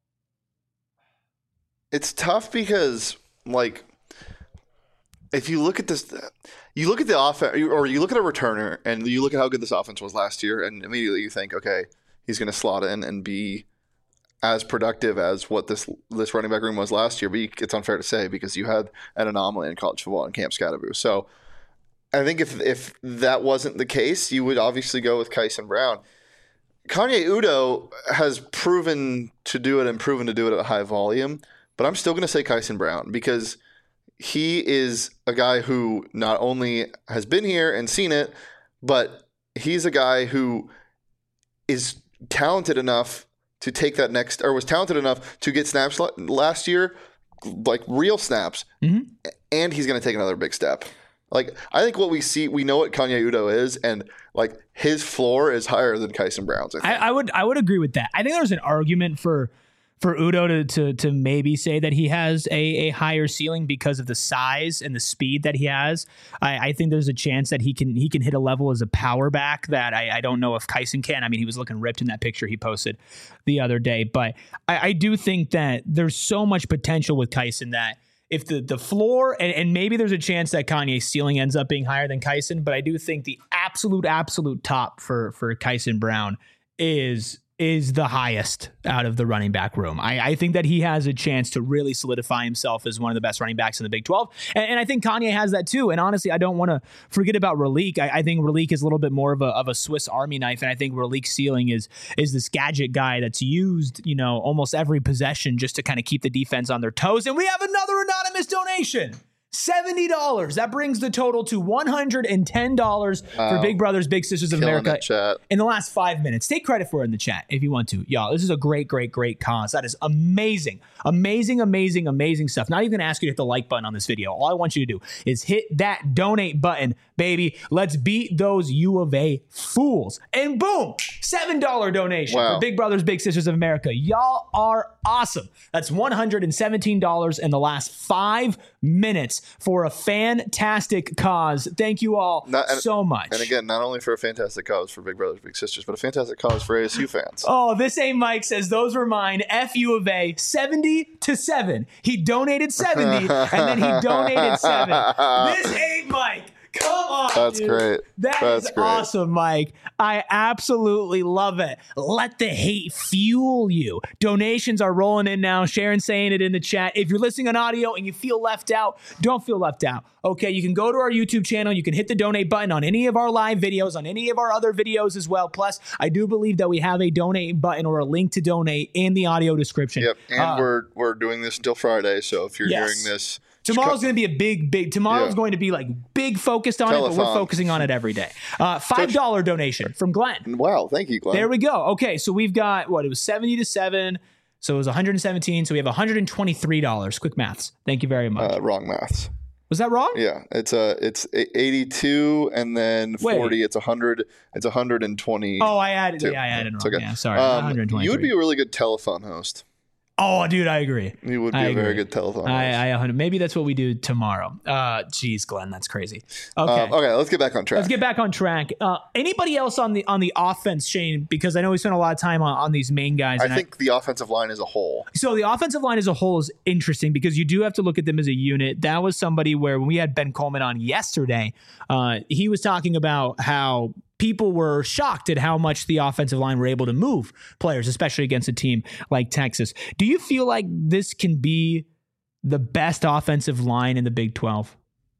It's tough because, if you look at this, you look at the offense, or you look at a returner, and you look at how good this offense was last year, and immediately you think, okay, he's going to slot in and be as productive as what this running back room was last year. But it's unfair to say because you had an anomaly in college football in Cam Scatterbo. So I think if that wasn't the case, you would obviously go with Kyson Brown. Kanye Udoh has proven to do it and proven to do it at a high volume, but I'm still going to say Kyson Brown because he is a guy who not only has been here and seen it, but he's a guy who is talented enough to take that next, or was talented enough to get snaps last year, like real snaps, and he's going to take another big step. I think what we know what Kanye Udoh is, and his floor is higher than Kyson Brown's. I would agree with that. I think there's an argument for Udoh to maybe say that he has a higher ceiling because of the size and the speed that he has. I think there's a chance that he can hit a level as a power back that I don't know if Kyson can. I mean, he was looking ripped in that picture he posted the other day, but I do think that there's so much potential with Kyson that if the floor, and maybe there's a chance that Kanye's ceiling ends up being higher than Kyson, but I do think the absolute top for Kyson Brown is the highest out of the running back room. I think that he has a chance to really solidify himself as one of the best running backs in the Big 12. And I think Kanye has that too. And honestly, I don't want to forget about Raleek. I think Raleek is a little bit more of a Swiss Army knife. And I think Raleek's ceiling is this gadget guy that's used, almost every possession just to kind of keep the defense on their toes. And we have another anonymous donation. $70. That brings the total to $110 for Big Brothers Big Sisters of America in the last 5 minutes. Take credit for it in the chat if you want to. Y'all, this is a great cause. That is amazing stuff. Not even going to ask you to hit the like button on this video. All I want you to do is hit that donate button, baby. Let's beat those U of A fools. And boom, $7 donation for Big Brothers Big Sisters of America. Y'all are awesome. That's $117 in the last 5 minutes for a fantastic cause. Thank you all so much. And again, not only for a fantastic cause for Big Brothers Big Sisters, but a fantastic cause for ASU fans. Oh, this ain't Mike says those were mine. F U of A, 70-7. He donated 70 and then he donated 7. This ain't Mike. Come on, That's dude. Great. That's great. Awesome, Mike. I absolutely love it. Let the hate fuel you. Donations are rolling in now. Sharon's saying it in the chat. If you're listening on audio and you feel left out, don't feel left out. Okay, you can go to our YouTube channel. You can hit the donate button on any of our live videos, on any of our other videos as well. Plus, I do believe that we have a donate button or a link to donate in the audio description. Yep, and we're doing this until Friday, so if you're hearing this... Tomorrow's going to be a big, tomorrow's going to be big focused on it, but we're focusing on it every day. $5 donation from Glenn. Wow. Thank you, Glenn. There we go. Okay. So we've got it was 70-7. So it was 117. So we have $123. Quick maths. Thank you very much. Wrong maths. Was that wrong? Yeah, it's 82 and then 40. It's 100. It's 120. Oh, I added. Yeah, I added wrong. Okay. Yeah, sorry. 123. You would be a really good telephone host. Oh, dude, I agree. You would be a very good telephone host. Maybe that's what we do tomorrow. Geez, Glenn, that's crazy. Okay, let's get back on track. Anybody else on the offense, Shane? Because I know we spent a lot of time on these main guys. I think the offensive line as a whole. So the offensive line as a whole is interesting because you do have to look at them as a unit. That was somebody where when we had Ben Coleman on yesterday, he was talking about how people were shocked at how much the offensive line were able to move players, especially against a team like Texas. Do you feel like this can be the best offensive line in the Big 12?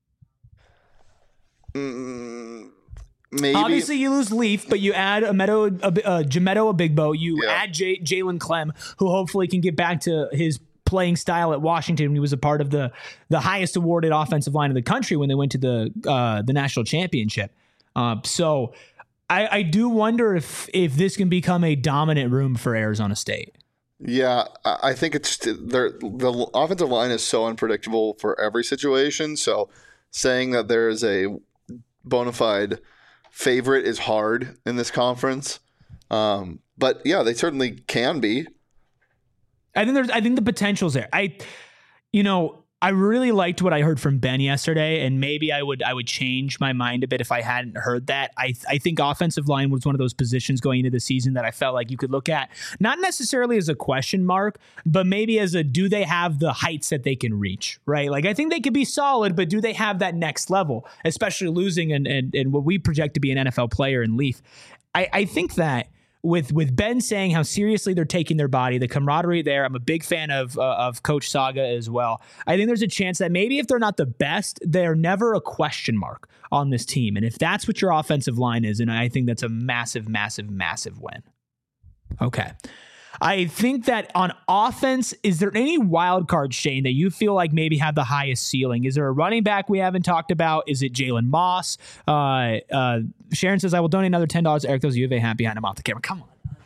Maybe. Obviously, you lose Leaf, but you add Jamedo Abigbo. You add Jalen Clem, who hopefully can get back to his playing style at Washington. He was a part of the highest awarded offensive line in the country when they went to the national championship. So I do wonder if this can become a dominant room for Arizona State. Yeah, I think the offensive line is so unpredictable for every situation. So saying that there is a bona fide favorite is hard in this conference. But yeah, they certainly can be. I think the potential's there. I really liked what I heard from Ben yesterday, and maybe I would change my mind a bit if I hadn't heard that. I think offensive line was one of those positions going into the season that I felt like you could look at, not necessarily as a question mark, but maybe as a, do they have the heights that they can reach, right? Like, I think they could be solid, but do they have that next level, especially losing and what we project to be an NFL player in Leaf? I think that with Ben saying how seriously they're taking their body, the camaraderie there. I'm a big fan of Coach Saga as well. I think there's a chance that maybe if they're not the best, they're never a question mark on this team. And if that's what your offensive line is, and I think that's a massive, massive, massive win. Okay. I think that on offense, is there any wild card, Shane, that you feel like maybe have the highest ceiling? Is there a running back we haven't talked about? Is it Jalen Moss? Sharon says, I will donate another $10. Eric, those U of A hat behind him off the camera. Come on.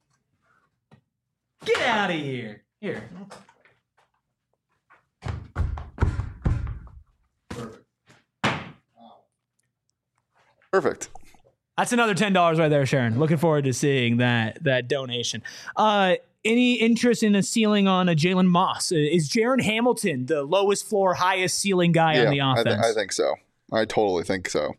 Get out of here. Here. Perfect. That's another $10 right there, Sharon. Looking forward to seeing that donation. Any interest in a ceiling on a Jalen Moss? Is Jaron Hamilton the lowest floor, highest ceiling guy on the offense? I think so. I totally think so.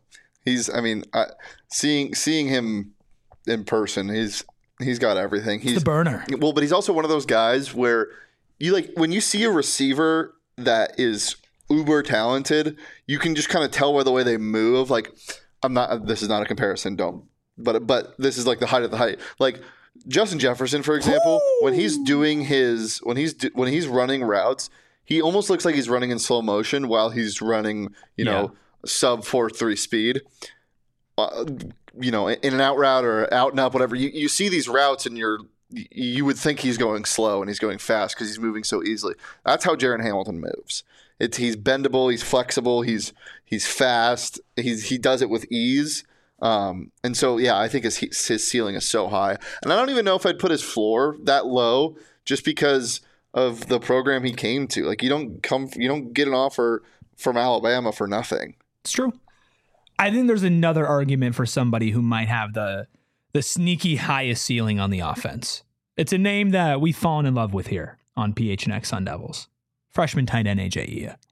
Seeing him in person, he's got everything. He's the burner. Well, but he's also one of those guys where when you see a receiver that is uber talented, you can just kind of tell by the way they move. Like, this is not a comparison, but this is like the height of the height. Like Justin Jefferson, for example, when he's running routes, he almost looks like he's running in slow motion while he's running, sub 4.3 speed. In an out route or out and up, whatever. You see these routes and you would think he's going slow and he's going fast because he's moving so easily. That's how Jaron Hamilton moves. He's bendable, he's flexible, he's fast, he does it with ease. And so I think his ceiling is so high. And I don't even know if I'd put his floor that low just because of the program he came to. Like, you don't get an offer from Alabama for nothing. It's true. I think there's another argument for somebody who might have the sneaky highest ceiling on the offense. It's a name that we've fallen in love with here on PHNX Sun Devils. Freshman tight end AJ Ia.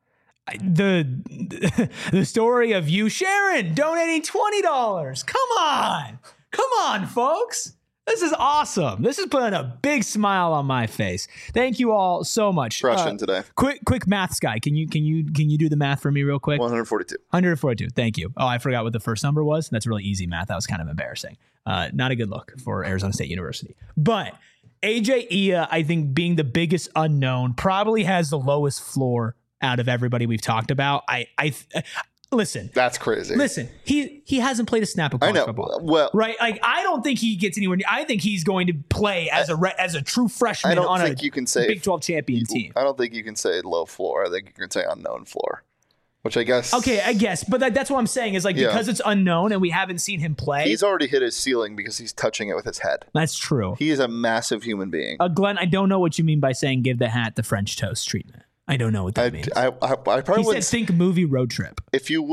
The story of you, Sharon, donating $20. Come on, folks. This is awesome. This is putting a big smile on my face. Thank you all so much. Freshman today. Quick maths guy. Can you do the math for me real quick? 142. 142. Thank you. Oh, I forgot what the first number was. That's really easy math. That was kind of embarrassing. Not a good look for Arizona State University. But AJ Ia, I think, being the biggest unknown, probably has the lowest floor out of everybody we've talked about. Listen. That's crazy. Listen, he hasn't played a snap of college football. Well, right? Like, I don't think he gets anywhere near. I think he's going to play as a true freshman on a Big 12 champion team. I don't think you can say low floor. I think you can say unknown floor. which I guess. Okay, I guess. But that's what I'm saying is like, because it's unknown and we haven't seen him play. He's already hit his ceiling because he's touching it with his head. That's true. He is a massive human being. Glenn, I don't know what you mean by saying give the hat the French toast treatment. I don't know what that means. I probably he said think movie road trip. If you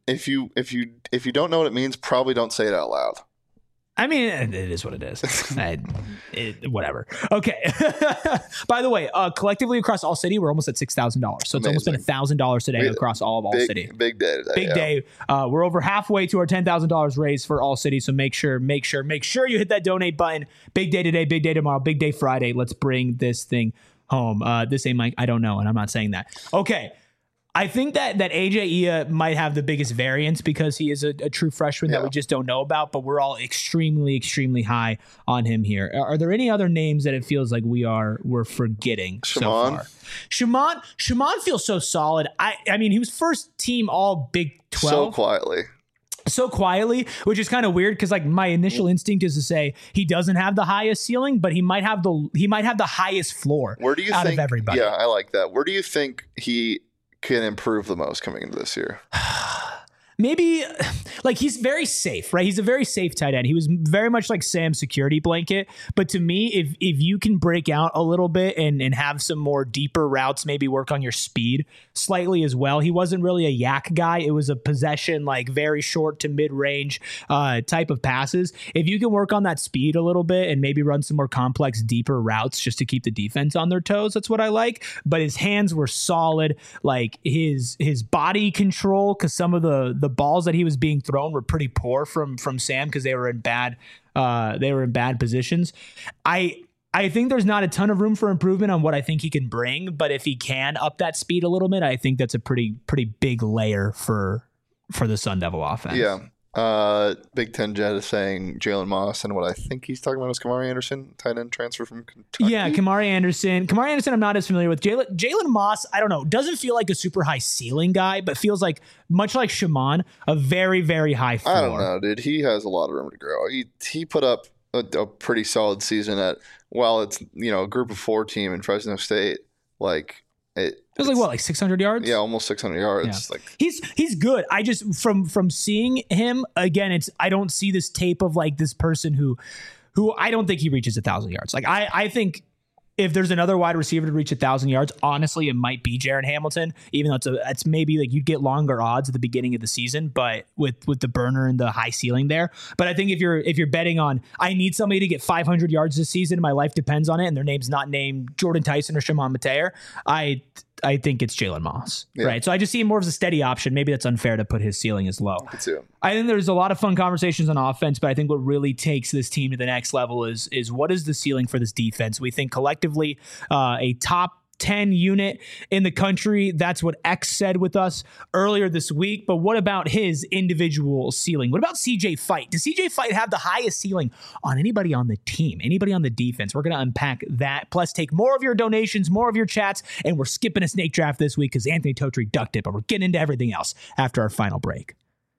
don't know what it means, probably don't say it out loud. I mean, it is what it is. Whatever. Okay. By the way, collectively across All City, we're almost at $6,000. So it's almost been $1,000 today across all of All City. Big day today. Big day. We're over halfway to our $10,000 raise for All City. So make sure you hit that donate button. Big day today, big day tomorrow, big day Friday. Let's bring this thing home. This ain't Mike. I don't know, and I'm not saying that. Okay. I think that AJ Ia might have the biggest variance because he is a true freshman that we just don't know about, but we're all extremely, extremely high on him here. Are there any other names that it feels like we're forgetting so far? Shaman feels so solid. I mean, he was first team all Big 12. So quietly, which is kind of weird because like my initial instinct is to say he doesn't have the highest ceiling, but he might have the highest floor. Where do you out think, of everybody? Yeah, I like that. Where do you think he can improve the most coming into this year? Maybe like he's very safe, right? He's a very safe tight end. He was very much like Sam's security blanket. But to me, if you can break out a little bit and have some more deeper routes, maybe work on your speed slightly as well. He wasn't really a yak guy. It was a possession, like very short to mid range type of passes. If you can work on that speed a little bit and maybe run some more complex, deeper routes just to keep the defense on their toes, that's what I like. But his hands were solid. Like his body control, because some of the balls that he was being thrown were pretty poor from Sam because they were in bad positions. I think there's not a ton of room for improvement on what I think he can bring, but if he can up that speed a little bit, I think that's a pretty big layer for the Sun Devil offense. Yeah. Big Ten Jet is saying Jalen Moss, and what I think he's talking about is Kamari Anderson, tight end transfer from Kentucky. Yeah, Kamari Anderson I'm not as familiar with. Jalen Moss, I don't know, doesn't feel like a super high ceiling guy, but feels like, much like Shaman, a very, very high floor. I don't know, dude. He has a lot of room to grow. He put up a pretty solid season at, while it's, a group of 4 team in Fresno State, like it was like what, like 600 yards? Yeah, almost 600 yards. Yeah. Like he's good. I just from seeing him again, I don't see this tape of like this person who I don't think he reaches 1,000 yards. Like I think if there's another wide receiver to reach 1,000 yards, honestly, it might be Jaron Hamilton, even though it's maybe like you'd get longer odds at the beginning of the season, but with the burner and the high ceiling there. But I think if you're betting on, I need somebody to get 500 yards this season, my life depends on it, and their name's not named Jordan Tyson or Shimon Mateer, I think it's Jalen Moss, right? So I just see him more as a steady option. Maybe that's unfair to put his ceiling as low. I think there's a lot of fun conversations on offense, but I think what really takes this team to the next level is what is the ceiling for this defense? We think collectively a top 10 unit in the country. That's what X said with us earlier this week. But what about his individual ceiling? What about CJ Fight? Does CJ Fight have the highest ceiling on anybody on the team, anybody on the defense? We're going to unpack that. Plus, take more of your donations, more of your chats, and we're skipping a snake draft this week because Anthony Totri ducked it, but we're getting into everything else after our final break.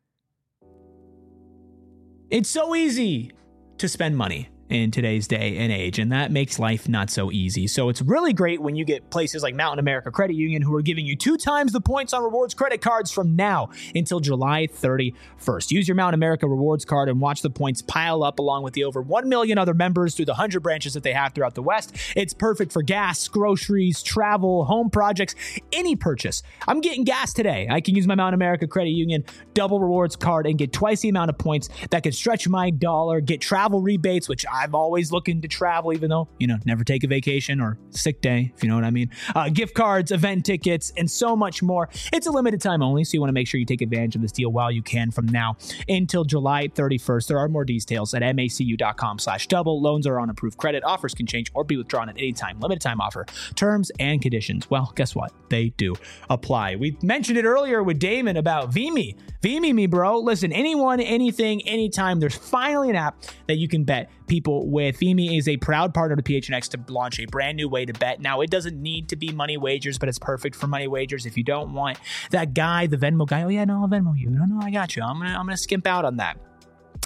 It's so easy to spend money in today's day and age, and that makes life not so easy. So it's really great when you get places like Mountain America Credit Union, who are giving you 2 times the points on rewards credit cards from now until July 31st. Use your Mountain America rewards card and watch the points pile up along with the over 1 million other members through the 100 branches that they have throughout the West. It's perfect for gas, groceries, travel, home projects, any purchase. I'm getting gas today. I can use my Mountain America Credit Union double rewards card and get twice the amount of points that can stretch my dollar, get travel rebates, which I'm always looking to travel, even though, never take a vacation or sick day, if you know what I mean. Gift cards, event tickets, and so much more. It's a limited time only, so you want to make sure you take advantage of this deal while you can from now until July 31st. There are more details at macu.com/double. Loans are on approved credit. Offers can change or be withdrawn at any time. Limited time offer. Terms and conditions, well, guess what? They do apply. We mentioned it earlier with Damon about Vimy. Vimy me, bro. Listen, anyone, anything, anytime. There's finally an app that you can bet people with. Vimy is a proud partner to PHNX to launch a brand new way to bet. Now, it doesn't need to be money wagers, but it's perfect for money wagers. If you don't want that guy, the Venmo guy, oh yeah, no, I'll Venmo you. No, I got you. I'm gonna skimp out on that.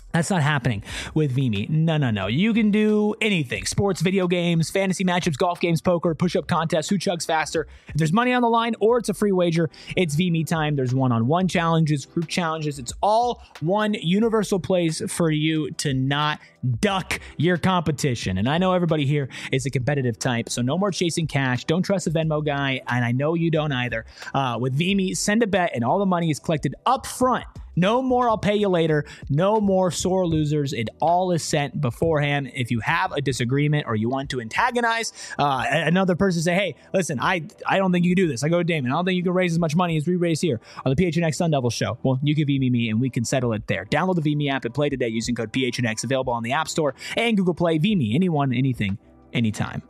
That's not happening with Vimy. No. You can do anything. Sports, video games, fantasy matchups, golf games, poker, push-up contests, who chugs faster. If there's money on the line or it's a free wager, it's Vimy time. There's one-on-one challenges, group challenges. It's all one universal place for you to not duck your competition. And I know everybody here is a competitive type, so no more chasing cash. Don't trust a Venmo guy, and I know you don't either. With Vimy, send a bet, and all the money is collected up front. No more I'll pay you later. No more sore losers. It all is sent beforehand. If you have a disagreement or you want to antagonize another person, say, hey, listen, I don't think you can do this. I go to Damon. I don't think you can raise as much money as we raise here on the PHNX Sun Devils show. Well, you can Vimy me and we can settle it there. Download the Vimy app and play today using code PHNX, available on the App Store and Google Play. Vimy, anyone, anything, anytime.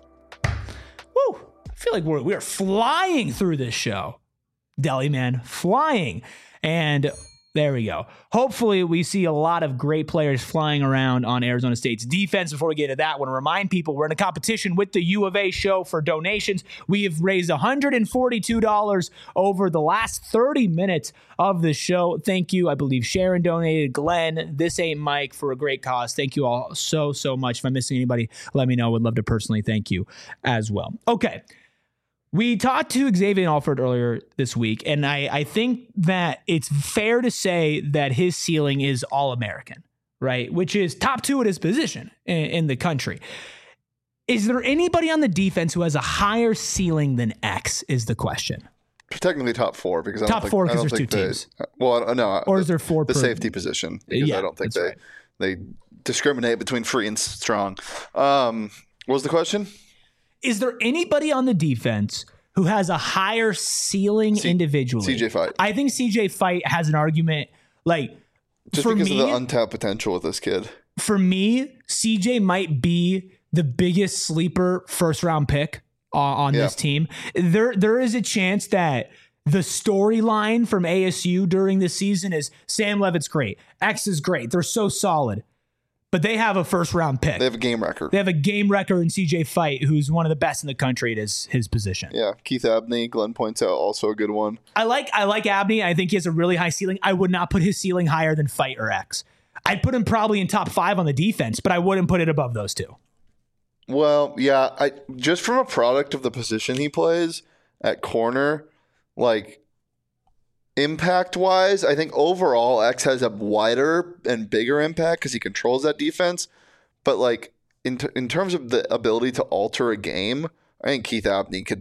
Woo! I feel like we're flying through this show. Deli man, flying. And there we go. Hopefully we see a lot of great players flying around on Arizona State's defense. Before we get to that, I want to remind people we're in a competition with the U of A show for donations. We have raised $142 over the last 30 minutes of the show. Thank you. I believe Sharon donated, Glenn, This Ain't Mike, for a great cause. Thank you all so much. If I'm missing anybody, let me know. Would love to personally thank you as well. Okay. We talked to Xavier Alford earlier this week, and I think that it's fair to say that his ceiling is All-American, right? Which is top 2 at his position in the country. Is there anybody on the defense who has a higher ceiling than X is the question. Technically top 4 because top 4 because there's 2 teams. Well, no. Or is there 4? The safety position, because I don't think they discriminate between free and strong. What was the question? Is there anybody on the defense who has a higher ceiling individually? CJ Fight. I think CJ Fight has an argument. Like, just for because me, of the untapped potential with this kid. For me, CJ might be the biggest sleeper first round pick on this team. There is a chance that the storyline from ASU during this season is Sam Levitt's great. X is great. They're so solid. But they have a first round pick. They have a game record. They have a game record in CJ Fight, who's one of the best in the country at his position. Yeah. Keith Abney, Glenn points out, also a good one. I like Abney. I think he has a really high ceiling. I would not put his ceiling higher than Fight or X. I'd put him probably in top 5 on the defense, but I wouldn't put it above those 2. Well, yeah. Just from a product of the position he plays at corner, like, impact-wise, I think overall X has a wider and bigger impact because he controls that defense. But like in terms of the ability to alter a game, I think Keith Abney could.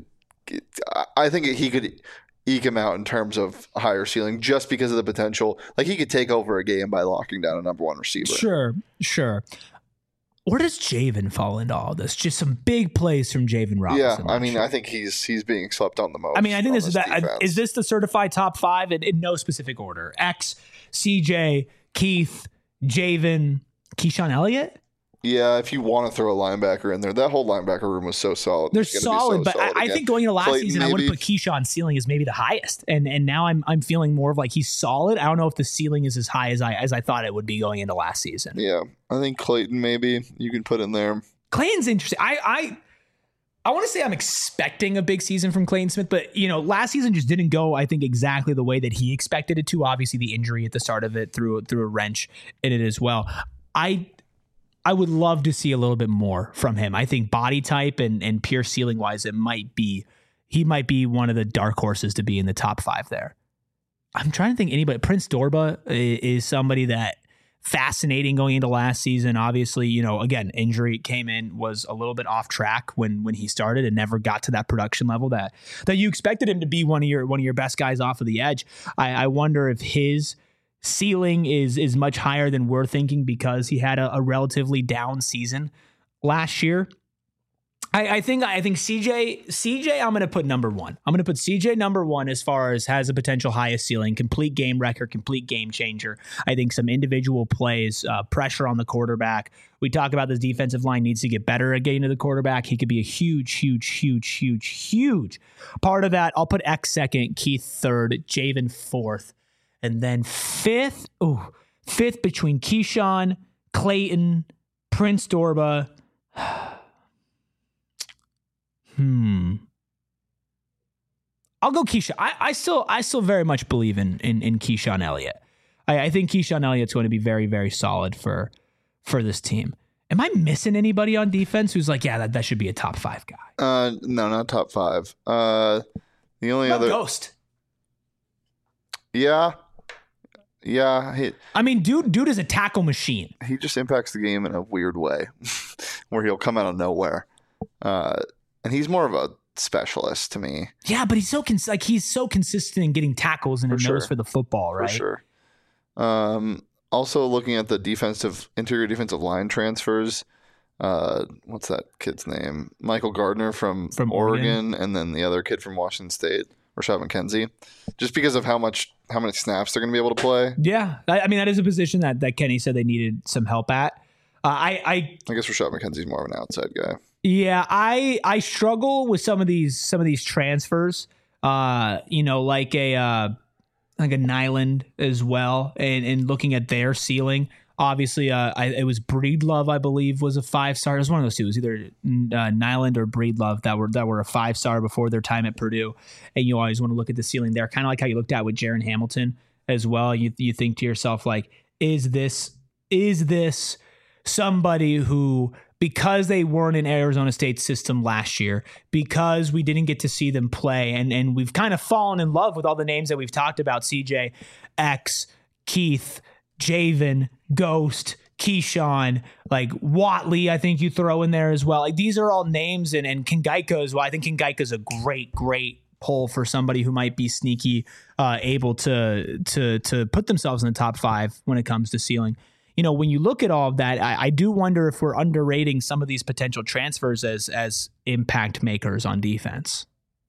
I think he could eke him out in terms of higher ceiling just because of the potential. Like he could take over a game by locking down a number 1 receiver. Sure. Where does Javen fall into all this? Just some big plays from Javen Robinson. Yeah, I mean, I think he's being slept on the most. I mean, I think is this the certified top 5 in no specific order? X, CJ, Keith, Javen, Keyshawn Elliott? Yeah, if you want to throw a linebacker in there, that whole linebacker room was so solid. They're solid, but I think going into last season, I would have put Keyshawn's ceiling as maybe the highest, and now I'm feeling more of like he's solid. I don't know if the ceiling is as high as I thought it would be going into last season. Yeah, I think Clayton maybe you can put in there. Clayton's interesting. I want to say I'm expecting a big season from Clayton Smith, but last season just didn't go, I think, exactly the way that he expected it to. Obviously, the injury at the start of it threw a wrench in it as well. I would love to see a little bit more from him. I think body type and pure ceiling wise, he might be one of the dark horses to be in the top 5 there. I'm trying to think anybody. Prince Dorba is somebody that fascinating going into last season. Obviously, again, injury came in, was a little bit off track when he started and never got to that production level that you expected him to be one of your best guys off of the edge. I wonder if his ceiling is much higher than we're thinking because he had a relatively down season last year. I think CJ I'm going to put number 1. I'm going to put CJ number 1 as far as has a potential highest ceiling, complete game record, complete game changer. I think some individual plays, pressure on the quarterback. We talk about this defensive line needs to get better at getting to the quarterback. He could be a huge part of that. I'll put X second, Keith third, Javen fourth. And then fifth between Keyshawn, Clayton, Prince Dorba. I'll go Keyshawn. I still very much believe in Keyshawn Elliott. I think Keyshawn Elliott's going to be very, very solid for this team. Am I missing anybody on defense who's like, yeah, that should be a top 5 guy? No, not top 5. The only other Ghost. Yeah. I mean, dude is a tackle machine. He just impacts the game in a weird way, where he'll come out of nowhere, and he's more of a specialist to me. Yeah, but he's so consistent in getting tackles and a nose for the football, right? For sure. Also, looking at the interior defensive line transfers, what's that kid's name? Michael Gardner from Oregon, and then the other kid from Washington State, Rashad McKenzie, just because of how many snaps they're going to be able to play. Yeah, I mean that is a position that Kenny said they needed some help at. I guess Rashad McKenzie's more of an outside guy. Yeah, I struggle with some of these transfers. Like a Nyland as well, and looking at their ceiling. Obviously, it was Breedlove, I believe, was a 5-star. It was one of those two. It was either Nyland or Breedlove that were a 5-star before their time at Purdue. And you always want to look at the ceiling there, kind of like how you looked at with Jaron Hamilton as well. You think to yourself, like, is this somebody who, because they weren't in Arizona State's system last year, because we didn't get to see them play, and we've kind of fallen in love with all the names that we've talked about, CJ, X, Keith, Javen, Ghost, Keyshawn, like Watley, I think you throw in there as well. Like, these are all names, and Kingaika as well. I think Kingaika's a great pull for somebody who might be sneaky, able to put themselves in the top 5 when it comes to ceiling. When you look at all of that, I do wonder if we're underrating some of these potential transfers as impact makers on defense.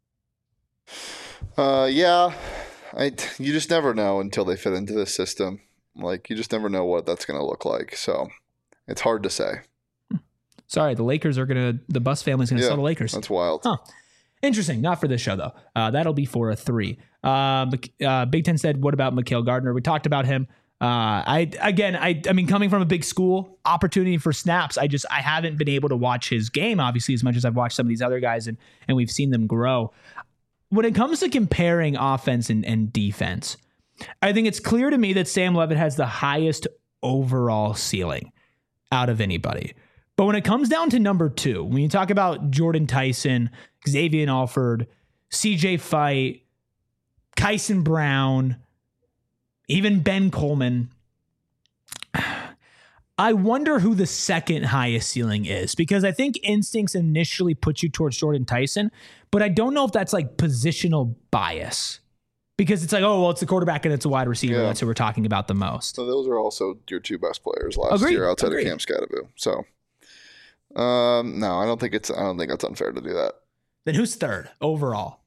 Yeah, you just never know until they fit into this system. Like, you just never know what that's going to look like. So it's hard to say. Sorry, the Bus family's going to sell the Lakers. That's wild. Huh. Interesting. Not for this show, though. That'll be for a 3. Big Ten said, what about Mikhail Gardner? We talked about him. I mean, coming from a big school, opportunity for snaps. I haven't been able to watch his game, obviously, as much as I've watched some of these other guys, and we've seen them grow. When it comes to comparing offense and defense, I think it's clear to me that Sam Leavitt has the highest overall ceiling out of anybody. But when it comes down to number 2, when you talk about Jordan Tyson, Xavier Alford, CJ Fight, Kyson Brown, even Ben Coleman, I wonder who the second highest ceiling is, because I think instincts initially put you towards Jordan Tyson, but I don't know if that's like positional bias, because it's like, oh, well, it's the quarterback and it's a wide receiver. Yeah. That's who we're talking about the most. So those are also your 2 best players last year outside of Cam Scattervoo. So, no, I don't think that's unfair to do that. Then who's third overall?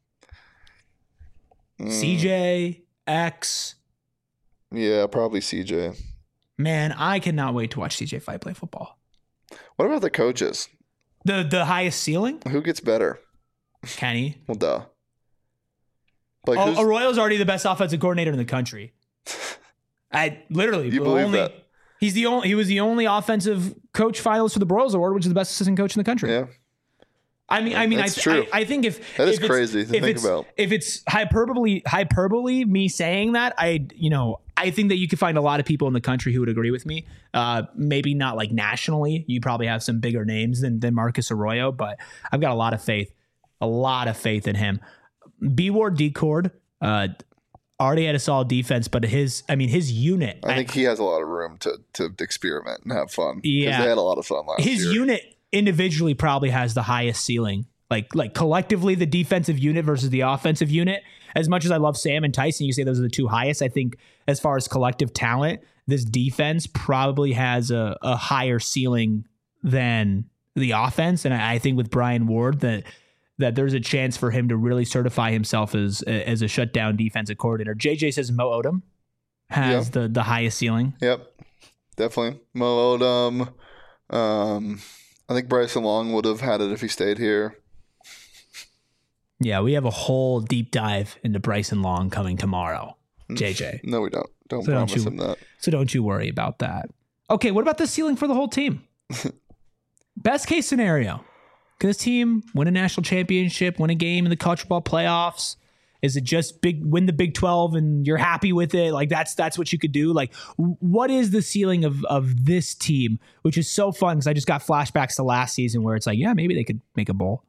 CJ, X. Yeah, probably CJ. Man, I cannot wait to watch CJ Fight play football. What about the coaches? The highest ceiling? Who gets better? Kenny. Well, duh. Like, Arroyo's already the best offensive coordinator in the country. I literally. You believe that? He was the only offensive coach finalist for the Broyles Award, which is the best assistant coach in the country. Yeah. I mean, true. I think if that is crazy to think about. If it's hyperbole, me saying that, I think that you could find a lot of people in the country who would agree with me. Maybe not like nationally. You probably have some bigger names than Marcus Arroyo, but I've got a lot of faith in him. B Ward Decord already had a solid defense, but his unit. I think he has a lot of room to experiment and have fun. Yeah, they had a lot of fun last year. His unit individually probably has the highest ceiling. Like collectively, the defensive unit versus the offensive unit. As much as I love Sam and Tyson, you say those are the 2 highest. I think as far as collective talent, this defense probably has a higher ceiling than the offense. And I think with Brian Ward that there's a chance for him to really certify himself as a shutdown defensive coordinator. JJ says Mo Odom has the highest ceiling. Yep, definitely. Mo Odom. I think Bryson Long would have had it if he stayed here. Yeah, we have a whole deep dive into Bryson Long coming tomorrow, JJ. No, we don't. Don't promise him that. So don't you worry about that. Okay, what about the ceiling for the whole team? Best case scenario. Can this team win a national championship, win a game in the college football playoffs, Is it just win the Big 12 and you're happy with it? Like that's what you could do. Like what is the ceiling of this team, which is so fun because I just got flashbacks to last season where it's like, yeah, maybe they could make a bowl.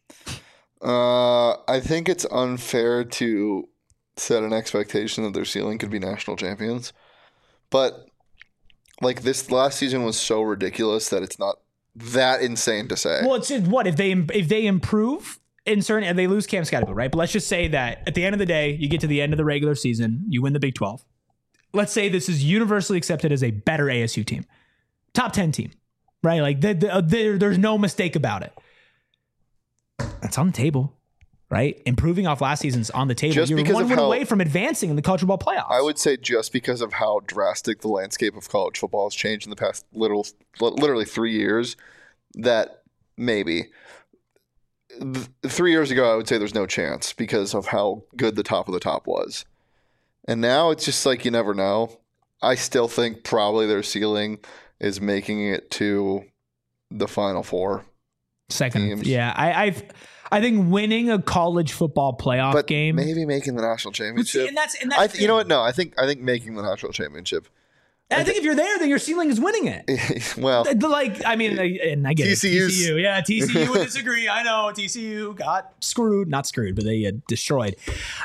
I think it's unfair to set an expectation that their ceiling could be national champions. But like this last season was so ridiculous that it's not that insane to say. Well, it's what if they improve in certain and they lose Cam Scatterbill, right? But let's just say that at the end of the day, you get to the end of the regular season, you win the Big 12. Let's say this is universally accepted as a better ASU team, top 10 team, right? Like there's no mistake about it. That's on the table, right? Improving off last season's on the table. You're one win away from advancing in the college football playoffs. I would say just because of how drastic the landscape of college football has changed in the past literally 3 years, that maybe 3 years ago I would say there's no chance because of how good the top of the top was. And now it's just like you never know. I still think probably their ceiling is making it to the Final Four. Second teams. Yeah, I think winning a college football playoff game, maybe making the national championship. And that's you know what? No, I think making the national championship. I think if you're there, then your ceiling is winning it. Well, like I mean, and I get TCU's, TCU. Yeah, TCU would disagree. I know TCU got not screwed, but they destroyed.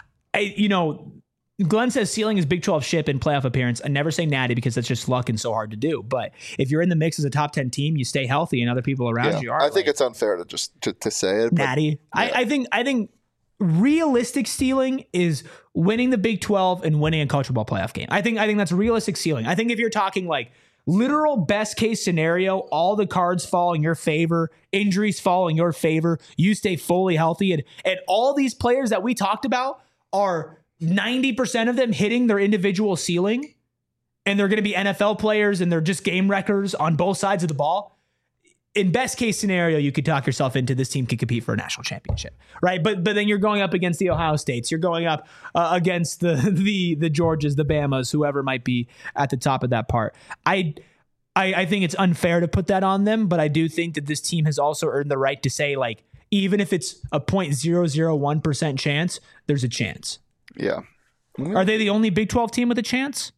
Glenn says ceiling is Big 12 ship and playoff appearance. I never say natty because that's just luck and so hard to do. But if you're in the mix as a top 10 team, you stay healthy and other people around you are. I think it's unfair to just to say it. Natty. Yeah. I think realistic ceiling is winning the Big 12 and winning a college football playoff game. I think that's realistic ceiling. I think if you're talking like literal best case scenario, all the cards fall in your favor, injuries fall in your favor, you stay fully healthy, and all these players that we talked about are 90% of them hitting their individual ceiling, and they're going to be NFL players and they're just game wreckers on both sides of the ball. In best case scenario, you could talk yourself into this team could compete for a national championship, right? But then you're going up against the Ohio States, you're going up against the Georgias, the Bamas, whoever might be at the top of that part. I think it's unfair to put that on them, but I do think that this team has also earned the right to say, like, even if it's a 0.001% chance, there's a chance. Yeah. Are they the only Big 12 team with a chance?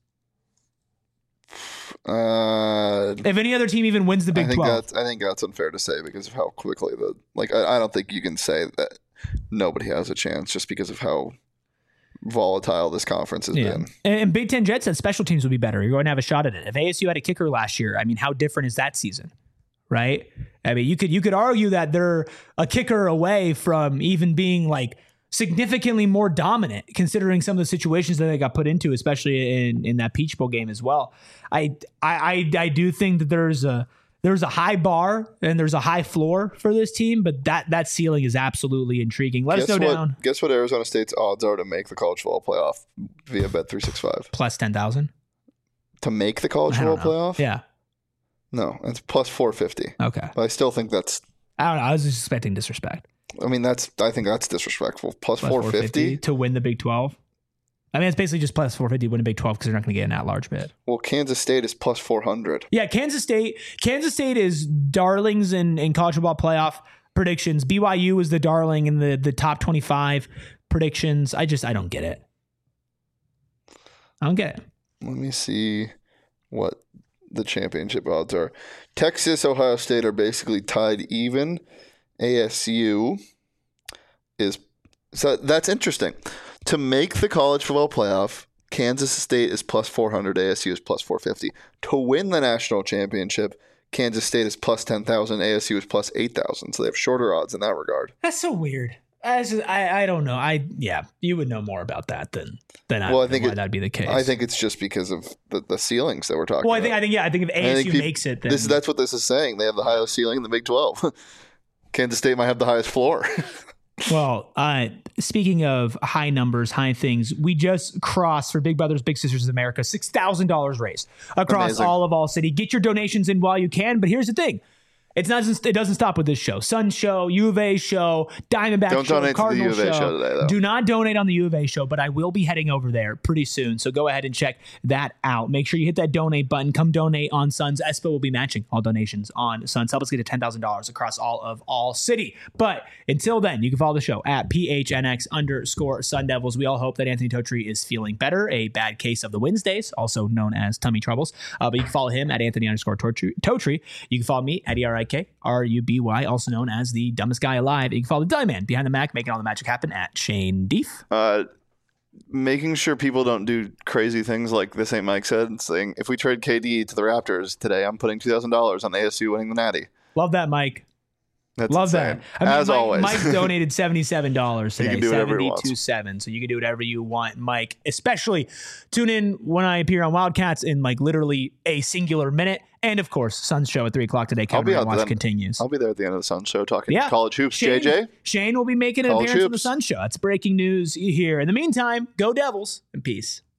If any other team even wins the Big 12. I think that's unfair to say because of how quickly I don't think you can say that nobody has a chance just because of how volatile this conference has been. And Big Ten Jet said special teams would be better. You're going to have a shot at it. If ASU had a kicker last year, I mean, how different is that season? Right? I mean, you could argue that they're a kicker away from even being like significantly more dominant considering some of the situations that they got put into, especially in that Peach Bowl game as well. I do think that there's a high bar and there's a high floor for this team, but that ceiling is absolutely intriguing. Let us know down. Guess what Arizona State's odds are to make the college football playoff via Bet365? Plus 10,000. To make the college football playoff? Yeah. No, it's plus 450. Okay. But I still think that's... I don't know. I was just expecting disrespect. I mean, I think that's disrespectful. Plus 450 to win the Big 12. I mean, it's basically just plus 450 to win a Big 12 because they're not going to get an at-large bid. Well, Kansas State is plus 400. Yeah, Kansas State is darlings in college football playoff predictions. BYU is the darling in the top 25 predictions. I don't get it. I don't get it. Let me see what the championship odds are. Texas, Ohio State are basically tied even. ASU is... So that's interesting. To make the college football playoff, Kansas State is plus 400, ASU is plus 450. To win the national championship, Kansas State is plus 10,000, ASU is plus 8,000. So they have shorter odds in that regard. That's so weird. I don't know. You would know more about that than I. Well, I think that'd be the case. I think it's just because of the ceilings that we're talking about. I think if ASU makes it, then that's what this is saying. They have the highest ceiling in the Big 12. Kansas State might have the highest floor. Well, speaking of high numbers, high things, we just crossed for Big Brothers Big Sisters of America $6,000 raised across all of All City. Get your donations in while you can, but here's the thing. It doesn't stop with this show. Sun show, U of A show, Diamondback Don't show, donate to the Cardinal U of A show today, though. Do not donate on the U of A show, but I will be heading over there pretty soon. So go ahead and check that out. Make sure you hit that donate button. Come donate on Suns. Espo will be matching all donations on Suns. Help us get to $10,000 across all of All City. But until then, you can follow the show at PHNX_Sun Devils. We all hope that Anthony Totri is feeling better. A bad case of the Wednesdays, also known as tummy troubles. But you can follow him at Anthony_Totri. You can follow me at ERIKRUBY, also known as the dumbest guy alive. You can follow the dumb man behind the Mac, making all the magic happen at Shane Deef. Making sure people don't do crazy things like this ain't Mike said, saying if we trade KD to the Raptors today, I'm putting $2,000 on ASU winning the Natty. Love that, Mike. That's Love insane. that. I mean, Always. Mike donated $77 today. He can do whatever he wants. 72.7. So you can do whatever you want, Mike. Especially tune in when I appear on Wildcats in like literally a singular minute. And of course, Suns show at 3:00 today. Kevin Watch continues. I'll be there at the end of the Sun show talking college hoops. JJ? Shane will be making an appearance on the Sun show. That's breaking news here. In the meantime, go Devils and peace.